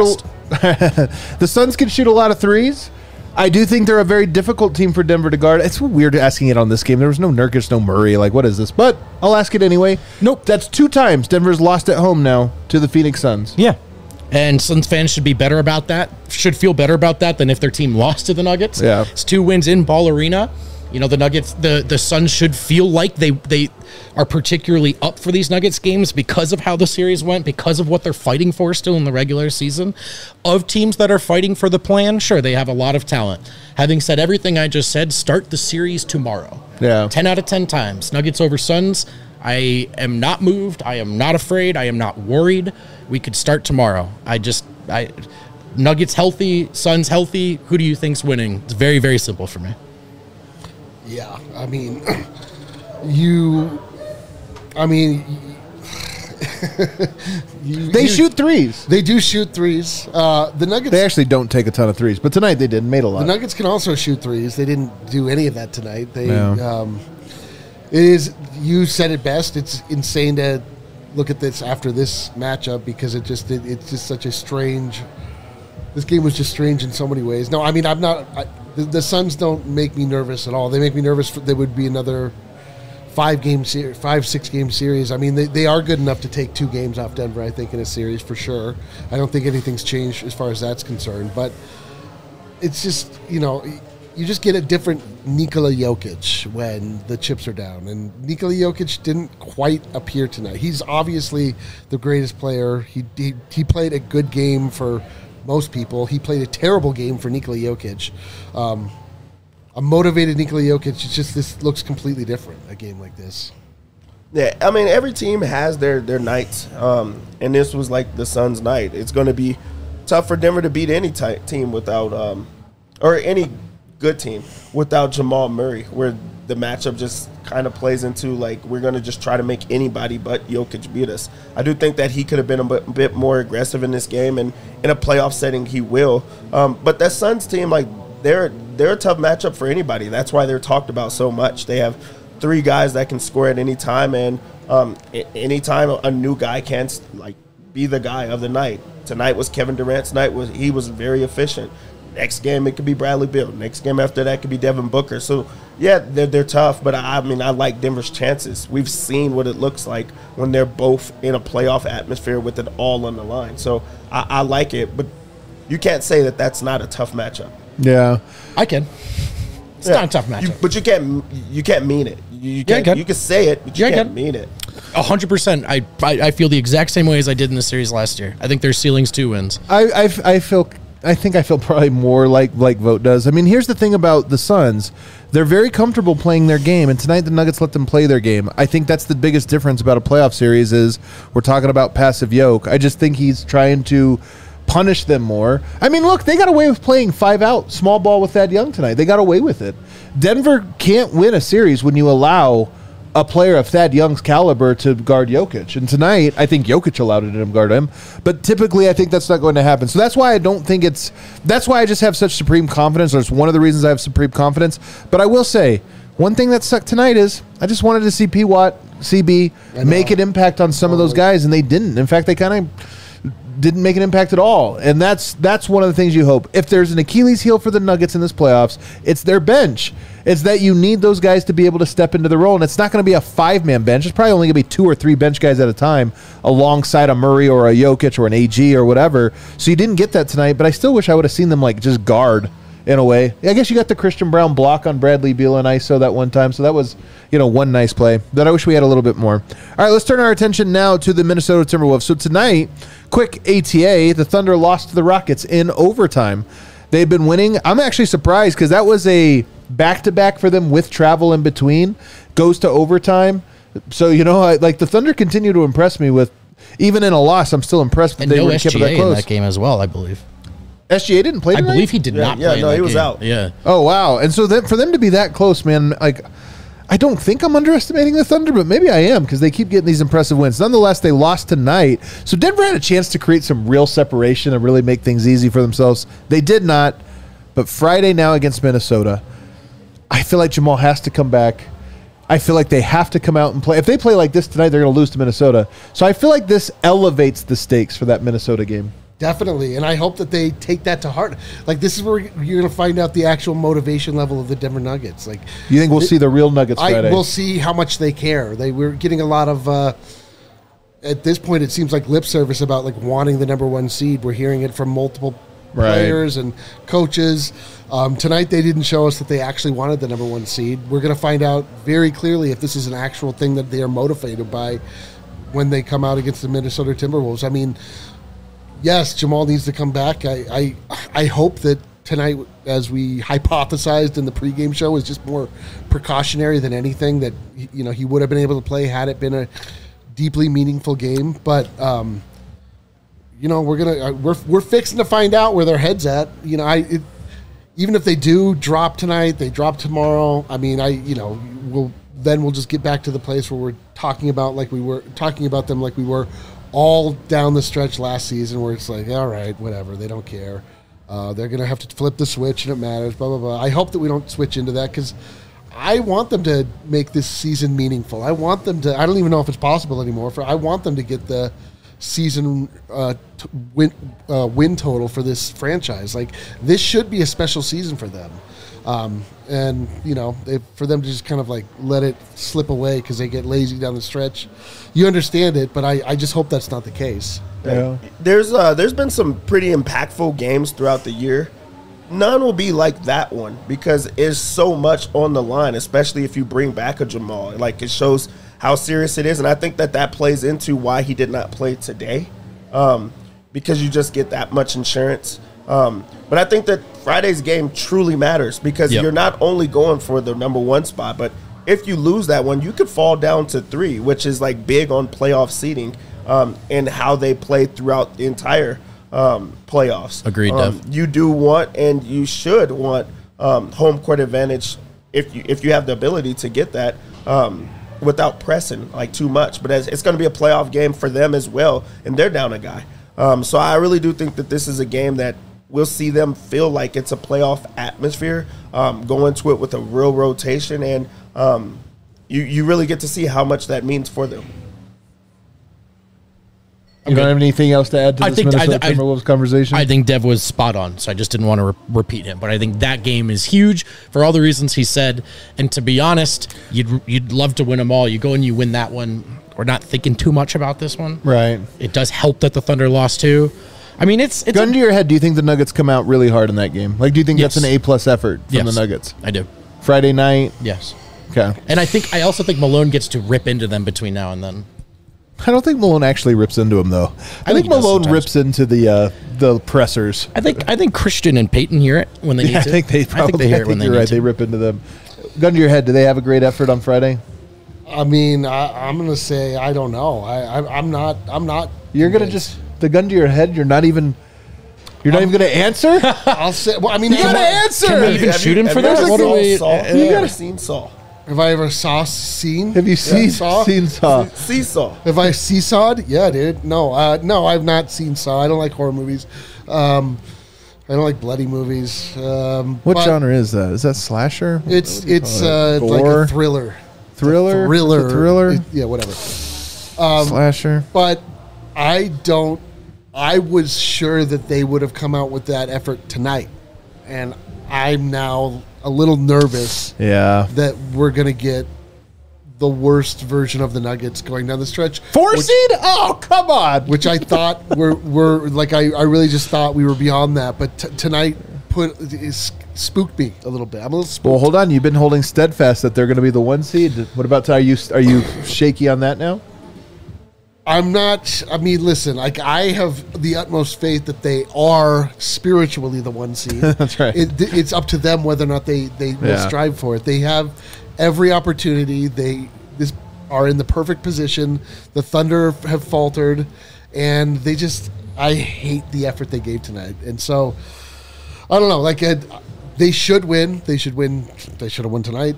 S1: the Suns can shoot a lot of threes. I do think they're a very difficult team for Denver to guard. It's weird asking it on this game. There was no Nurkic, no Murray. Like, what is this? But I'll ask it anyway. Nope. That's 2 times Denver's lost at home now to the Phoenix Suns.
S3: Yeah. And Suns fans should be better about that, should feel better about that than if their team lost to the Nuggets.
S1: Yeah.
S3: It's 2 wins in Ball Arena. You know, the Nuggets, the Suns should feel like they are particularly up for these Nuggets games because of how the series went, because of what they're fighting for still in the regular season. Of teams that are fighting for the plan, sure, they have a lot of talent. Having said everything I just said, start the series tomorrow.
S1: Yeah.
S3: 10 out of 10 times. Nuggets over Suns. I am not moved. I am not afraid. I am not worried. We could start tomorrow. Nuggets healthy, Suns healthy. Who do you think's winning? It's very, very simple for me.
S4: Yeah, I mean,
S1: they shoot threes.
S4: They do shoot threes. The Nuggets.
S1: They actually don't take a ton of threes, but tonight they did. Made a lot.
S4: The Nuggets can also shoot threes. They didn't do any of that tonight. It is. You said it best. It's insane to look at this after this matchup because it's just such a strange. This game was just strange in so many ways. No, I mean I'm not. The Suns don't make me nervous at all. They make me nervous. There would be another 5-6 game series. I mean, they are good enough to take 2 games off Denver, I think, in a series for sure. I don't think anything's changed as far as that's concerned. But it's just, you just get a different Nikola Jokic when the chips are down. And Nikola Jokic didn't quite appear tonight. He's obviously the greatest player. He played a good game for most people. He played a terrible game for Nikola Jokic. A motivated Nikola Jokic, this looks completely different, a game like this.
S2: Yeah, I mean, every team has their nights, and this was like the Suns' night. It's going to be tough for Denver to beat any team without, or any good team without Jamal Murray, where the matchup just kind of plays into, like, we're going to just try to make anybody but Jokic beat us. I do think that he could have been a bit more aggressive in this game, and in a playoff setting he will. But that Suns team, like, they're a tough matchup for anybody. That's why they're talked about so much. They have 3 guys that can score at any time, and anytime a new guy can be the guy of the night. Tonight was Kevin Durant's night. He was very efficient. Next game it could be Bradley Beal. Next game after that could be Devin Booker. So yeah, they're tough, but I mean I like Denver's chances. We've seen what it looks like when they're both in a playoff atmosphere with it all on the line. So I like it, but you can't say that that's not a tough matchup.
S1: Yeah,
S3: I can. It's not a tough matchup,
S2: but you can't mean it. You can say it, but you can't mean it. 100%.
S3: I feel the exact same way as I did in the series last year. I think their ceiling's 2 wins.
S1: I feel I think I feel probably more like Vogt does. I mean, here's the thing about the Suns. They're very comfortable playing their game, and tonight the Nuggets let them play their game. I think that's the biggest difference about a playoff series is we're talking about passive Yoke. I just think he's trying to punish them more. I mean, look, they got away with playing 5 out small ball with Thad Young tonight. They got away with it. Denver can't win a series when you allow a player of Thad Young's caliber to guard Jokic. And tonight, I think Jokic allowed it to guard him. But typically, I think that's not going to happen. So that's why I don't think that's why I just have such supreme confidence. That's one of the reasons I have supreme confidence. But I will say, one thing that sucked tonight is I just wanted to see P. Watt, CB, make an impact on some of those guys, and they didn't. In fact, they kind of didn't make an impact at all. And that's one of the things you hope. If there's an Achilles heel for the Nuggets in this playoffs, it's their bench. It's that you need those guys to be able to step into the role, and it's not going to be a 5-man bench. It's probably only going to be 2 or 3 bench guys at a time alongside a Murray or a Jokic or an AG or whatever. So you didn't get that tonight, but I still wish I would have seen them like just guard in a way. I guess you got the Christian Brown block on Bradley Beal and ISO that one time, so that was, one nice play that I wish we had a little bit more. All right, let's turn our attention now to the Minnesota Timberwolves. So tonight, quick ATA, the Thunder lost to the Rockets in overtime. They've been winning. I'm actually surprised because that was a back-to-back for them with travel in between. Goes to overtime. So, the Thunder continue to impress me with, even in a loss, I'm still impressed that they were kept that close.
S3: In that game as well, I believe.
S1: SGA didn't play tonight?
S3: I believe he did not play.
S2: He was out.
S3: Yeah.
S1: Oh, wow. And so for them to be that close, man, I don't think I'm underestimating the Thunder, but maybe I am because they keep getting these impressive wins. Nonetheless, they lost tonight. So Denver had a chance to create some real separation and really make things easy for themselves. They did not. But Friday now against Minnesota, I feel like Jamal has to come back. I feel like they have to come out and play. If they play like this tonight, they're going to lose to Minnesota. So I feel like this elevates the stakes for that Minnesota game.
S4: Definitely, and I hope that they take that to heart. This is where you're going to find out the actual motivation level of the Denver Nuggets.
S1: You think we'll see the real Nuggets Friday?
S4: We'll see how much they care. We're getting a lot of, at this point, it seems like lip service about wanting the number 1 seed. We're hearing it from multiple players and coaches. Tonight, they didn't show us that they actually wanted the number 1 seed. We're going to find out very clearly if this is an actual thing that they are motivated by when they come out against the Minnesota Timberwolves. I mean, yes, Jamal needs to come back. I hope that tonight, as we hypothesized in the pregame show, is just more precautionary than anything, that he would have been able to play had it been a deeply meaningful game. But we're fixing to find out where their head's at. Even if they do drop tonight, they drop tomorrow. I mean, we'll just get back to the place where we're talking about them like we were all down the stretch last season, where it's like, all right, whatever, they don't care. They're going to have to flip the switch, and it matters, blah, blah, blah. I hope that we don't switch into that, because I want them to make this season meaningful. I want them to – I don't even know if it's possible anymore. I want them to get the season win total for this franchise. This should be a special season for them. And, for them to just kind of let it slip away because they get lazy down the stretch. You understand it, but I just hope that's not the case.
S1: Yeah.
S2: There's been some pretty impactful games throughout the year. None will be like that one because there's so much on the line, especially if you bring back a Jamal. It shows how serious it is, and I think that plays into why he did not play today, because you just get that much insurance. But I think that Friday's game truly matters because you're not only going for the number 1 spot, but if you lose that one, you could fall down to 3, which is big on playoff seeding and how they play throughout the entire playoffs.
S3: Agreed, Dev.
S2: You do want and you should want home court advantage if you have the ability to get that without pressing too much. But it's going to be a playoff game for them as well, and they're down a guy. So I really do think that this is a game that we'll see them feel like it's a playoff atmosphere, go into it with a real rotation, and you really get to see how much that means for them.
S1: You don't have anything else to add to this Minnesota Timberwolves conversation?
S3: I think Dev was spot on, so I just didn't want to repeat him. But I think that game is huge for all the reasons he said. And to be honest, you'd love to win them all. You go and you win that one. We're not thinking too much about this one.
S1: Right.
S3: It does help that the Thunder lost too. I mean, it's
S1: gun to your head. Do you think the Nuggets come out really hard in that game? Do you think that's an A+ effort from the Nuggets?
S3: I do.
S1: Friday night?
S3: Yes.
S1: Okay.
S3: And I also think Malone gets to rip into them between now and then.
S1: I don't think Malone actually rips into him, though. I think Malone rips into the pressers.
S3: I think Christian and Peyton hear it when they need to.
S1: I think they
S3: hear it when they need to.
S1: They rip into them. Gun to your head, do they have a great effort on Friday?
S4: I mean, I'm going to say I don't know. I'm not.
S1: You're going to just the gun to your head. You're not even going to answer.
S4: I'll say. Well, I mean,
S1: you got to answer.
S3: Can we even shoot him for this?
S2: What do we? You got seen Saw.
S4: Have I ever seen?
S1: Have you seen Saw?
S2: Seesaw.
S4: Have I seesawed? Yeah, dude. No, I've not seen Saw. I don't like horror movies. I don't like bloody movies.
S1: What genre is that? Is that slasher?
S4: It's like a thriller.
S1: Thriller?
S4: Yeah, whatever.
S1: Slasher.
S4: But I was sure that they would have come out with that effort tonight. And I'm now a little nervous that we're going to get the worst version of the Nuggets going down the stretch.
S1: 4 seed? Oh, come on.
S4: Which I thought were like, I really just thought we were beyond that. But tonight spooked me a little bit. I'm a little spooked.
S1: Well, hold on. You've been holding steadfast that they're going to be the 1 seed. What about, are you shaky on that now?
S4: I'm not. I mean, listen. Like, I have the utmost faith that they are spiritually the 1 seed.
S1: That's right.
S4: It's up to them whether or not they will strive for it. They have every opportunity. They are in the perfect position. The Thunder have faltered, and they just. I hate the effort they gave tonight, and so I don't know. Like, they should win. They should win. They should have won tonight.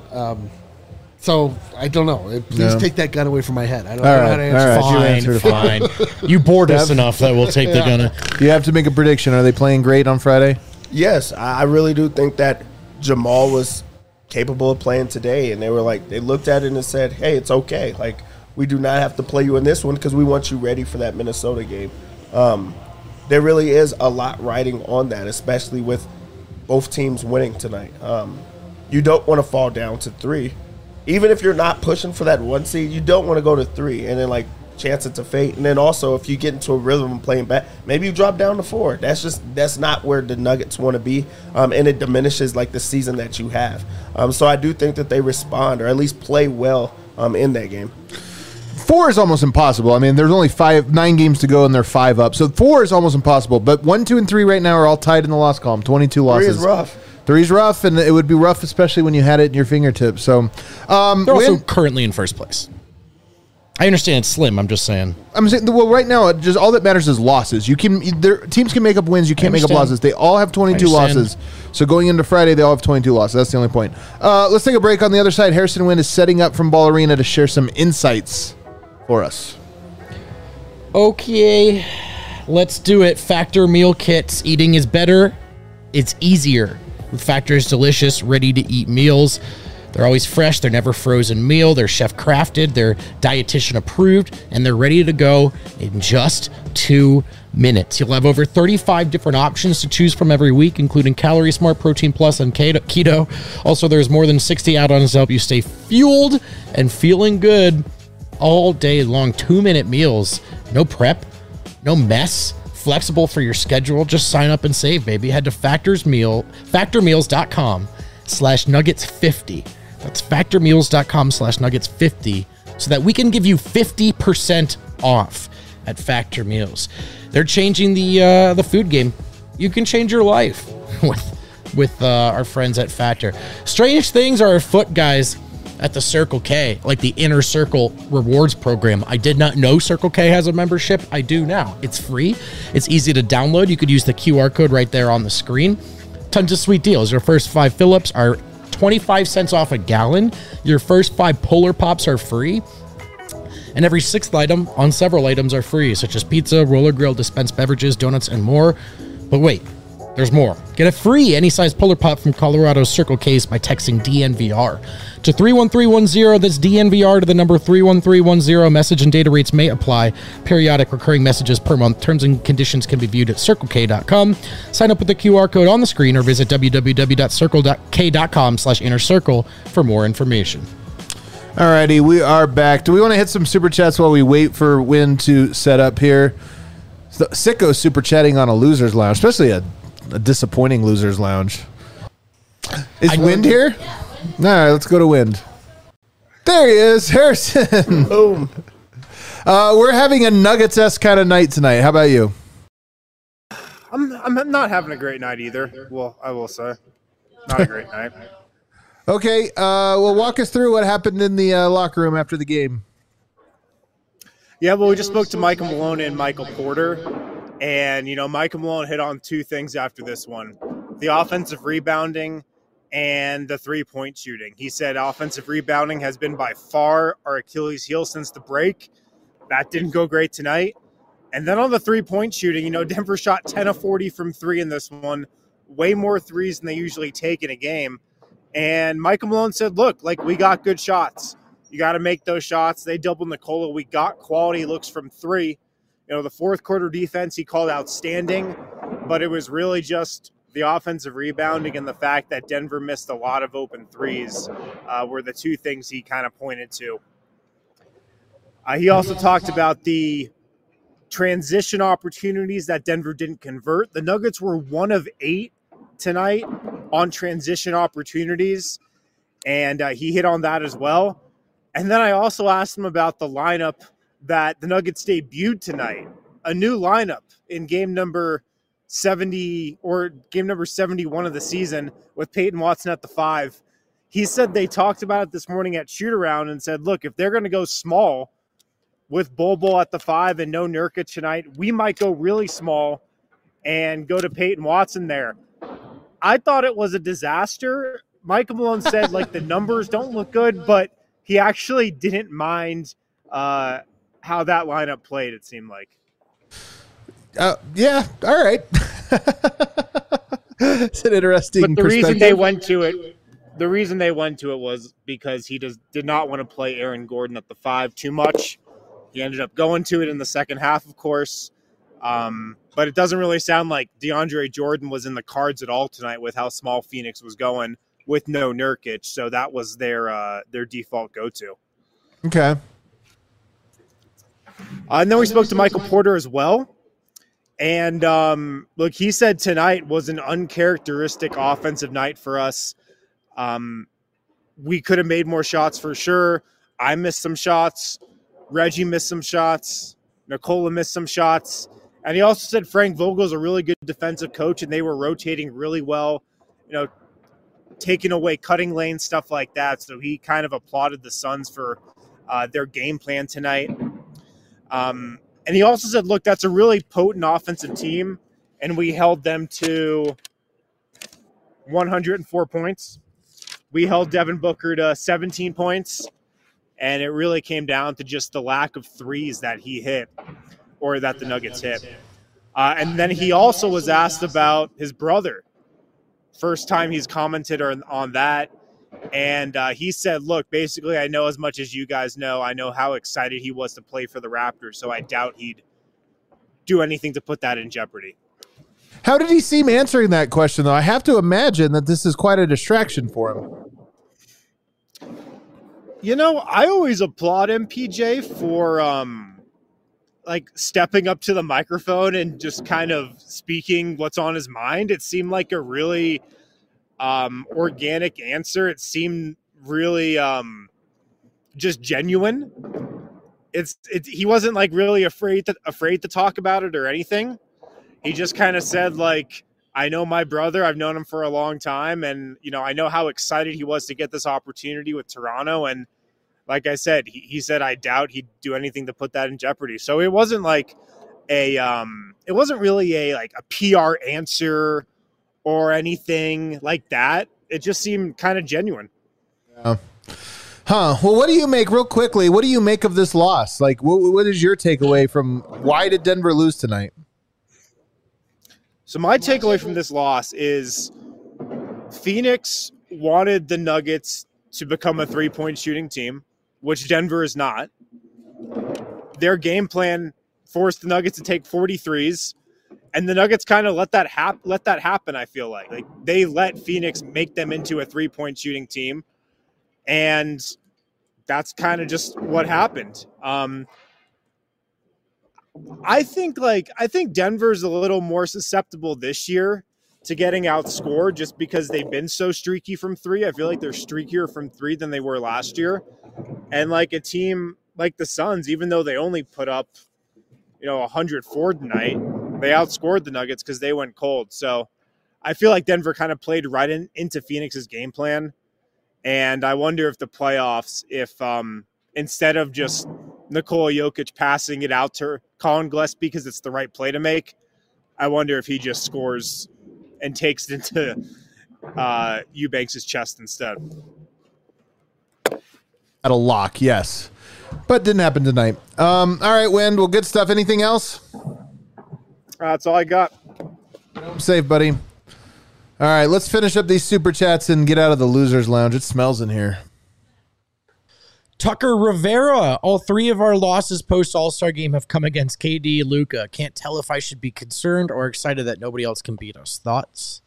S4: So I don't know. Please take that gun away from my head. I don't know how to answer.
S3: Fine. You bored us enough that we'll take the gun.
S1: You have to make a prediction. Are they playing great on Friday?
S2: Yes, I really do think that Jamal was capable of playing today, and they looked at it and said, "Hey, it's okay. Like, we do not have to play you in this one because we want you ready for that Minnesota game." There really is a lot riding on that, especially with both teams winning tonight. You don't want to fall down to 3. Even if you're not pushing for that 1 seed, you don't want to go to 3 and then chance it to fate. And then also, if you get into a rhythm and playing back, maybe you drop down to 4. That's not where the Nuggets want to be, and it diminishes the season that you have. So I do think that they respond or at least play well in that game.
S1: 4 is almost impossible. I mean, there's only 9 games to go, and they're 5 up. So 4 is almost impossible. But 1, 2, and 3 right now are all tied in the loss column. 22 losses.
S2: 3 is rough.
S1: 3's rough, and it would be rough, especially when you had it in your fingertips. So
S3: they're also currently in first place. I understand it's slim. I'm just saying.
S1: Well, right now, just all that matters is losses. Teams can make up wins. You can't make up losses. They all have 22 losses. So going into Friday, they all have 22 losses. That's the only point. Let's take a break. On the other side, Harrison Wind is setting up from Ball Arena to share some insights for us.
S3: Okay, let's do it. Factor meal kits. Eating is better. It's easier. With Factor's delicious, ready-to-eat meals. They're always fresh. They're never frozen meal. They're chef-crafted. They're dietitian-approved. And they're ready to go in just 2 minutes. You'll have over 35 different options to choose from every week, including Calorie Smart, Protein Plus, and Keto. Also, there's more than 60 add-ons to help you stay fueled and feeling good all day long. 2-minute meals. No prep. No mess. Flexible for your schedule. Just sign up and save, baby. Head to factormeals.com/nuggets50. That's factormeals.com/nuggets50 so that we can give you 50% off at Factor Meals. They're changing the food game. You can change your life with our friends at Factor. Strange things are afoot, guys, at the Circle K, like the Inner Circle rewards program. I did not know Circle K has a membership. I do now. It's free. It's easy to download. You could use the QR code right there on the screen. Tons of sweet deals. Your first 5 fill-ups are 25 cents off a gallon. Your first 5 Polar Pops are free. And every 6th item on several items are free, such as pizza, roller grill, dispensed beverages, donuts, and more. But wait, there's more. Get a free any-size Polar Pop from Colorado's Circle K's by texting DNVR to 31310. That's DNVR to the number 31310. Message and data rates may apply. Periodic recurring messages per month. Terms and conditions can be viewed at CircleK.com. Sign up with the QR code on the screen or visit www.circlek.com/innercircle for more information.
S1: Alrighty, we are back. Do we want to hit some super chats while we wait for Win to set up here? Sicko super chatting on a loser's lounge, especially a disappointing loser's lounge. Is Wind here? All right, let's go to Wind. There he is, Harrison.
S2: Boom.
S1: We're having a Nuggets-esque kind of night tonight. How about you?
S5: I'm not having a great night either. Well, I will say, not a great night.
S1: Okay, well, walk us through what happened in the locker room after the game.
S5: Yeah, well, we just spoke to Michael Malone and Michael Porter, and Michael Malone hit on two things after this one: the offensive rebounding and the three-point shooting. He said offensive rebounding has been by far our Achilles heel since the break. That didn't go great tonight. And then on the three-point shooting, Denver shot 10 of 40 from three in this one, way more threes than they usually take in a game. And Michael Malone said, look, we got good shots. You got to make those shots. They doubled Nikola. We got quality looks from three. The fourth quarter defense he called outstanding, but it was really just the offensive rebounding and the fact that Denver missed a lot of open threes were the two things he kind of pointed to. He also talked about the transition opportunities that Denver didn't convert. The Nuggets were 1 of 8 tonight on transition opportunities, and he hit on that as well. And then I also asked him about the lineup that the Nuggets debuted tonight, a new lineup in game number 70 or game number 71 of the season with Peyton Watson at the 5. He said they talked about it this morning at shoot-around and said, look, if they're going to go small with Bol at the 5 and no Nurkic tonight, we might go really small and go to Peyton Watson there. I thought it was a disaster. Michael Malone said, the numbers don't look good, but he actually didn't mind how that lineup played, it seemed like.
S1: Yeah, all right. It's an interesting
S5: But the reason they went to it was because he did not want to play Aaron Gordon at the 5 too much. He ended up going to it in the second half, of course. But it doesn't really sound like DeAndre Jordan was in the cards at all tonight with how small Phoenix was going with no Nurkic. So that was their default go-to.
S1: Okay.
S5: And then we spoke to Michael Porter as well. And look, he said tonight was an uncharacteristic offensive night for us. We could have made more shots for sure. I missed some shots. Reggie missed some shots. Nikola missed some shots. And he also said Frank Vogel's a really good defensive coach, and they were rotating really well, taking away cutting lane, stuff like that. So he kind of applauded the Suns for their game plan tonight. And he also said, look, that's a really potent offensive team, and we held them to 104 points. We held Devin Booker to 17 points, and it really came down to just the lack of threes that he hit or that the Nuggets hit. And then he also was asked about his brother. First time he's commented on that. And he said, look, basically, I know as much as you guys know. I know how excited he was to play for the Raptors, so I doubt he'd do anything to put that in jeopardy.
S1: How did he seem answering that question, though? I have to imagine that this is quite a distraction for him.
S5: I always applaud MPJ for stepping up to the microphone and just kind of speaking what's on his mind. It seemed like a really organic answer. It seemed really just genuine. He wasn't really afraid to talk about it or anything. He just kind of said I know my brother. I've known him for a long time, and I know how excited he was to get this opportunity with Toronto. And like I said, he said I doubt he'd do anything to put that in jeopardy. So it wasn't it wasn't really a PR answer or anything like that. It just seemed kind of genuine.
S1: Yeah. Huh. Well, what do you make, real quickly, what do you make of this loss? What is your takeaway from why did Denver lose tonight?
S5: So my takeaway from this loss is Phoenix wanted the Nuggets to become a three-point shooting team, which Denver is not. Their game plan forced the Nuggets to take 43s. And the Nuggets kind of let that happen, I feel like. They let Phoenix make them into a three-point shooting team, and that's kind of just what happened. I think Denver's a little more susceptible this year to getting outscored just because they've been so streaky from three. I feel like they're streakier from three than they were last year. And a team like the Suns, even though they only put up, 104 tonight, they outscored the Nuggets because they went cold. So I feel like Denver kind of played right into Phoenix's game plan. And I wonder if the playoffs, if instead of just Nikola Jokic passing it out to Colin Gillespie because it's the right play to make, I wonder if he just scores and takes it into Eubanks' chest instead.
S1: At a lock, yes. But didn't happen tonight. All right, Wind. Well, good stuff. Anything else?
S5: That's all I got.
S1: Safe, buddy. All right, let's finish up these super chats and get out of the losers lounge. It smells in here.
S3: Tucker Rivera. All three of our losses post All-Star game have come against KD, Luka. Can't tell if I should be concerned or excited that nobody else can beat us. Thoughts?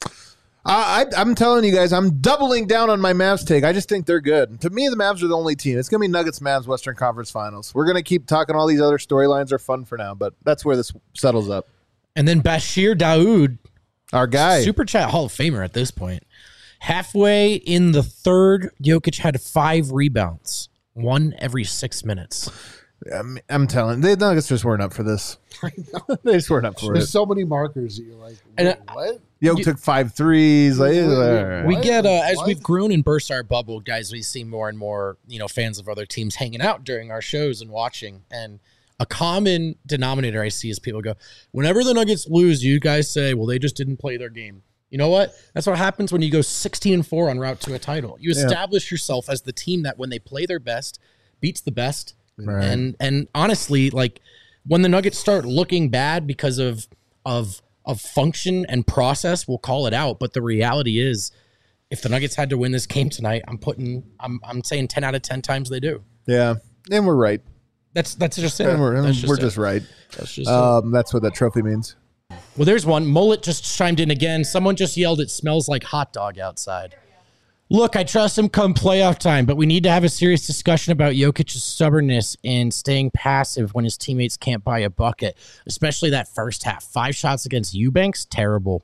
S1: I'm telling you guys, I'm doubling down on my Mavs take. I just think they're good. To me, the Mavs are the only team. It's going to be Nuggets, Mavs, Western Conference Finals. We're going to keep talking. All these other storylines are fun for now, but that's where this settles up.
S3: And then Bashir Daoud,
S1: our guy,
S3: Super Chat Hall of Famer at this point. Halfway in the third, Jokic had 5 rebounds, 1 every 6 minutes.
S1: I'm telling you, the Nuggets just weren't up for this.
S4: I know.
S1: They just weren't up for
S4: There's
S1: it.
S4: so many markers that you're like, what?
S1: Jokic took 5 threes. Like,
S3: We get as we've grown and burst our bubble, guys. We see more and more, fans of other teams hanging out during our shows and watching. And a common denominator I see is people go, whenever the Nuggets lose, you guys say, well, they just didn't play their game. You know what? That's what happens when you go 16-4 on route to a title. You establish yourself as the team that when they play their best, beats the best.
S1: Right.
S3: And honestly, like when the Nuggets start looking bad because of function and process, we'll call it out. But the reality is, if the Nuggets had to win this game tonight, I'm saying 10 out of 10 times they do.
S1: Yeah, and we're right.
S3: That's just it.
S1: And we're
S3: just
S1: just right.
S3: That's just
S1: that's what that trophy means.
S3: Well, there's one. Mullet just chimed in again. Someone just yelled, "It smells like hot dog outside." Look, I trust him come playoff time, but we need to have a serious discussion about Jokic's stubbornness and staying passive when his teammates can't buy a bucket, especially that first half. 5 shots against Eubanks, terrible.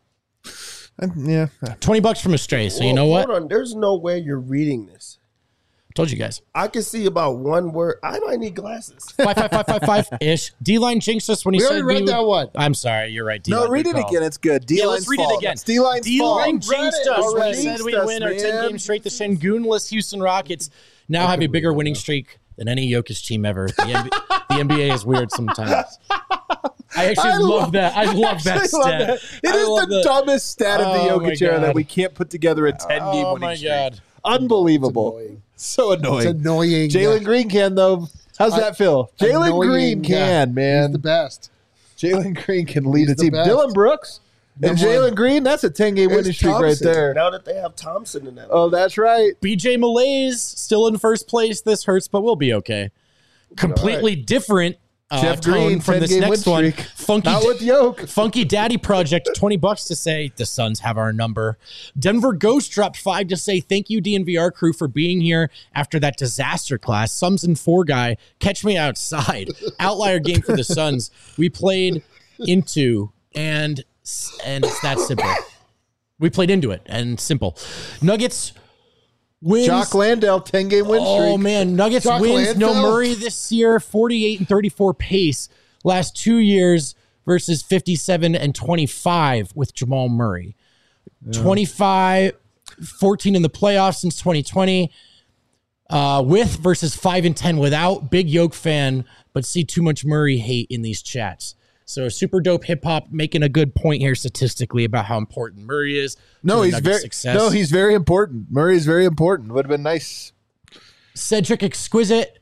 S1: Yeah.
S3: $20 from a stray, so you know what?
S2: Hold on. There's no way you're reading this.
S3: Told you guys.
S2: I can see about one word. I might need glasses.
S3: 5-5-5-5-5-ish. D-line jinxed us when he
S4: We
S3: said
S4: already read that one.
S3: I'm sorry, you're right. D-line,
S1: No, read it again. It's good.
S3: Yeah, let's read it again.
S1: It's D-line's
S3: D-line
S1: fault.
S3: jinxed us when he said
S1: Jinxed
S3: we
S1: us,
S3: win our 10
S1: man.
S3: games straight. The Shangoonless Houston Rockets now have a bigger winning streak than any Jokic team ever. The NBA is weird sometimes. I actually love that. I love that stat.
S1: It is the dumbest stat of the Jokic era that we can't put together a 10-game winning streak.
S3: God.
S1: Unbelievable.
S4: It's
S1: So annoying.
S4: It's annoying.
S1: Jalen Green can, though. How's that feel? Jalen
S4: Annoying,
S1: Green can, man.
S4: He's the best.
S1: Jalen Green can lead a
S4: He's the
S1: team.
S4: best.
S1: Dylan Brooks and Jalen Green, that's a 10-game winning
S2: It's
S1: streak right
S2: Thompson.
S1: there.
S2: Now that they have Thompson in that.
S1: Oh, that's right.
S3: BJ Malaise still in first place. This hurts, but we'll be okay. Completely different
S1: Jeff
S3: tone
S1: Green,
S3: from this
S1: 10-game
S3: next
S1: win
S3: one.
S1: streak.
S3: Funky,
S1: Not with Yoke.
S3: Funky Daddy Project, $20 to say the Suns have our number. Denver Ghost dropped 5 to say thank you DNVR crew for being here after that disaster class. Sums and 4 guy, catch me outside. Outlier game for the Suns. We played into and it's that simple. We played into it and simple. Nuggets wins.
S1: Jock Landale, 10-game win streak.
S3: Oh, man. Nuggets
S4: Jock
S3: wins. No
S4: Landale.
S3: Murray this year. 48 and 34 pace. Last 2 years versus 57 and 25 with Jamal Murray. 25, 14 in the playoffs since 2020. With versus 5 and 10 without. Big Yoke fan, but see too much Murray hate in these chats. So super dope hip hop making a good point here statistically about how important Murray is.
S1: No,
S3: to the
S1: he's
S3: Nuggets'
S1: very
S3: success.
S1: he's very important. Murray's very important. Would have been nice.
S3: Cedric Exquisite.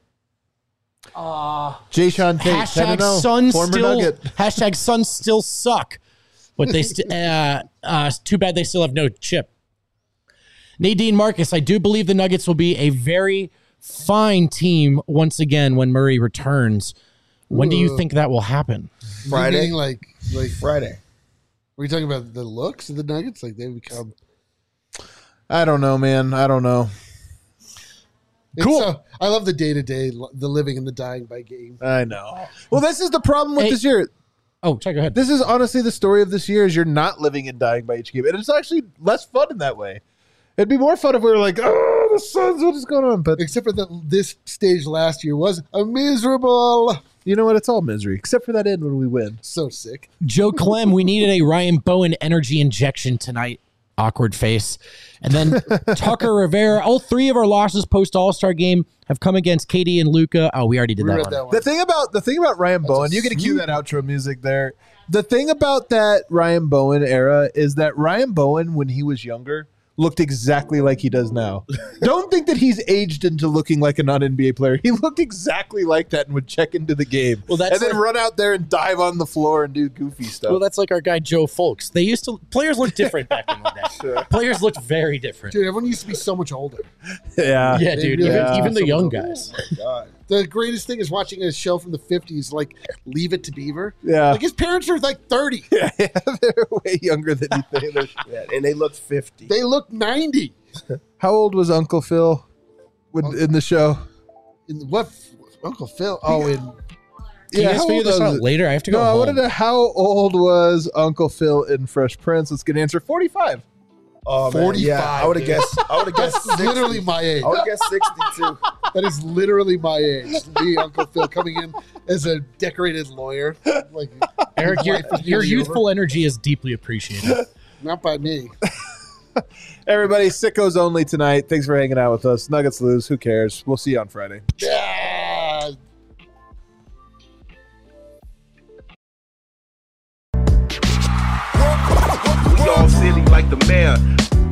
S1: Jay Sean Tate,
S3: Hashtag
S1: 10-0,
S3: Suns
S1: former
S3: still.
S1: Nugget.
S3: Hashtag Suns still suck, but they too bad they still have no chip. Nadine Marcus, I do believe the Nuggets will be a very fine team once again when Murray returns. When do you think that will happen?
S2: Friday.
S4: Meaning like
S2: Friday.
S4: Are you talking about the looks of the Nuggets? Like they become
S1: I don't know, man. I don't know.
S3: Cool.
S4: I love the day-to-day, the living and the dying by game.
S1: I know. Well, this is the problem with
S3: Hey.
S1: this year.
S3: Oh, check ahead.
S1: This is honestly the story of this year is you're not living and dying by each game. And it's actually less fun in that way. It'd be more fun if we were like, oh, the Suns, what is going on? But
S4: except for that, this stage last year was a miserable.
S1: You know what? It's all misery, except for that end when we win.
S4: So sick.
S3: Joe Clem, we needed a Ryan Bowen energy injection tonight. Awkward face. And then Tucker Rivera. All three of our losses post All-Star game have come against KD and Luka. Oh, we already did that one.
S1: The thing about Ryan Bowen, you get to cue that outro music there. The thing about that Ryan Bowen era is that Ryan Bowen, when he was younger, looked exactly like he does now. Don't think that he's aged into looking like a non-NBA player. He looked exactly like that and would check into the game.
S3: Well, that's
S1: and then run out there and dive on the floor and do goofy stuff.
S3: Well, that's like our guy Joe Folks. Players looked different back in the day. Sure. Players looked very different.
S4: Dude, everyone used to be so much older.
S1: Yeah.
S3: Yeah, dude.
S4: Really
S3: even the young guys.
S2: Oh my God.
S4: The greatest thing is watching a show from the 50s, like Leave It to Beaver.
S1: Yeah.
S4: Like his parents are like 30.
S1: Yeah, they're way younger than you think.
S2: Yeah, and they look 50.
S4: They look 90.
S1: How old was Uncle Phil in the show?
S4: What? Uncle Phil? Oh, in...
S3: Can you guys figure this out later? I have to go
S1: No, I
S3: home.
S1: want to know how old was Uncle Phil in Fresh Prince? Let's get an answer. 45.
S2: Oh,
S4: 45.
S2: Yeah, I would have guessed.
S4: That's
S2: 60.
S4: literally my age.
S2: I would have guessed 62.
S4: That is literally my age. Me, Uncle Phil, coming in as a decorated lawyer. Like,
S3: Eric,
S4: his life is
S3: your
S4: nearly
S3: youthful
S4: over.
S3: energy is deeply appreciated.
S4: Not by me.
S1: Everybody, Sickos only tonight. Thanks for hanging out with us. Nuggets lose. Who cares? We'll see you on Friday.
S4: Yeah.
S6: Dog City like the mayor.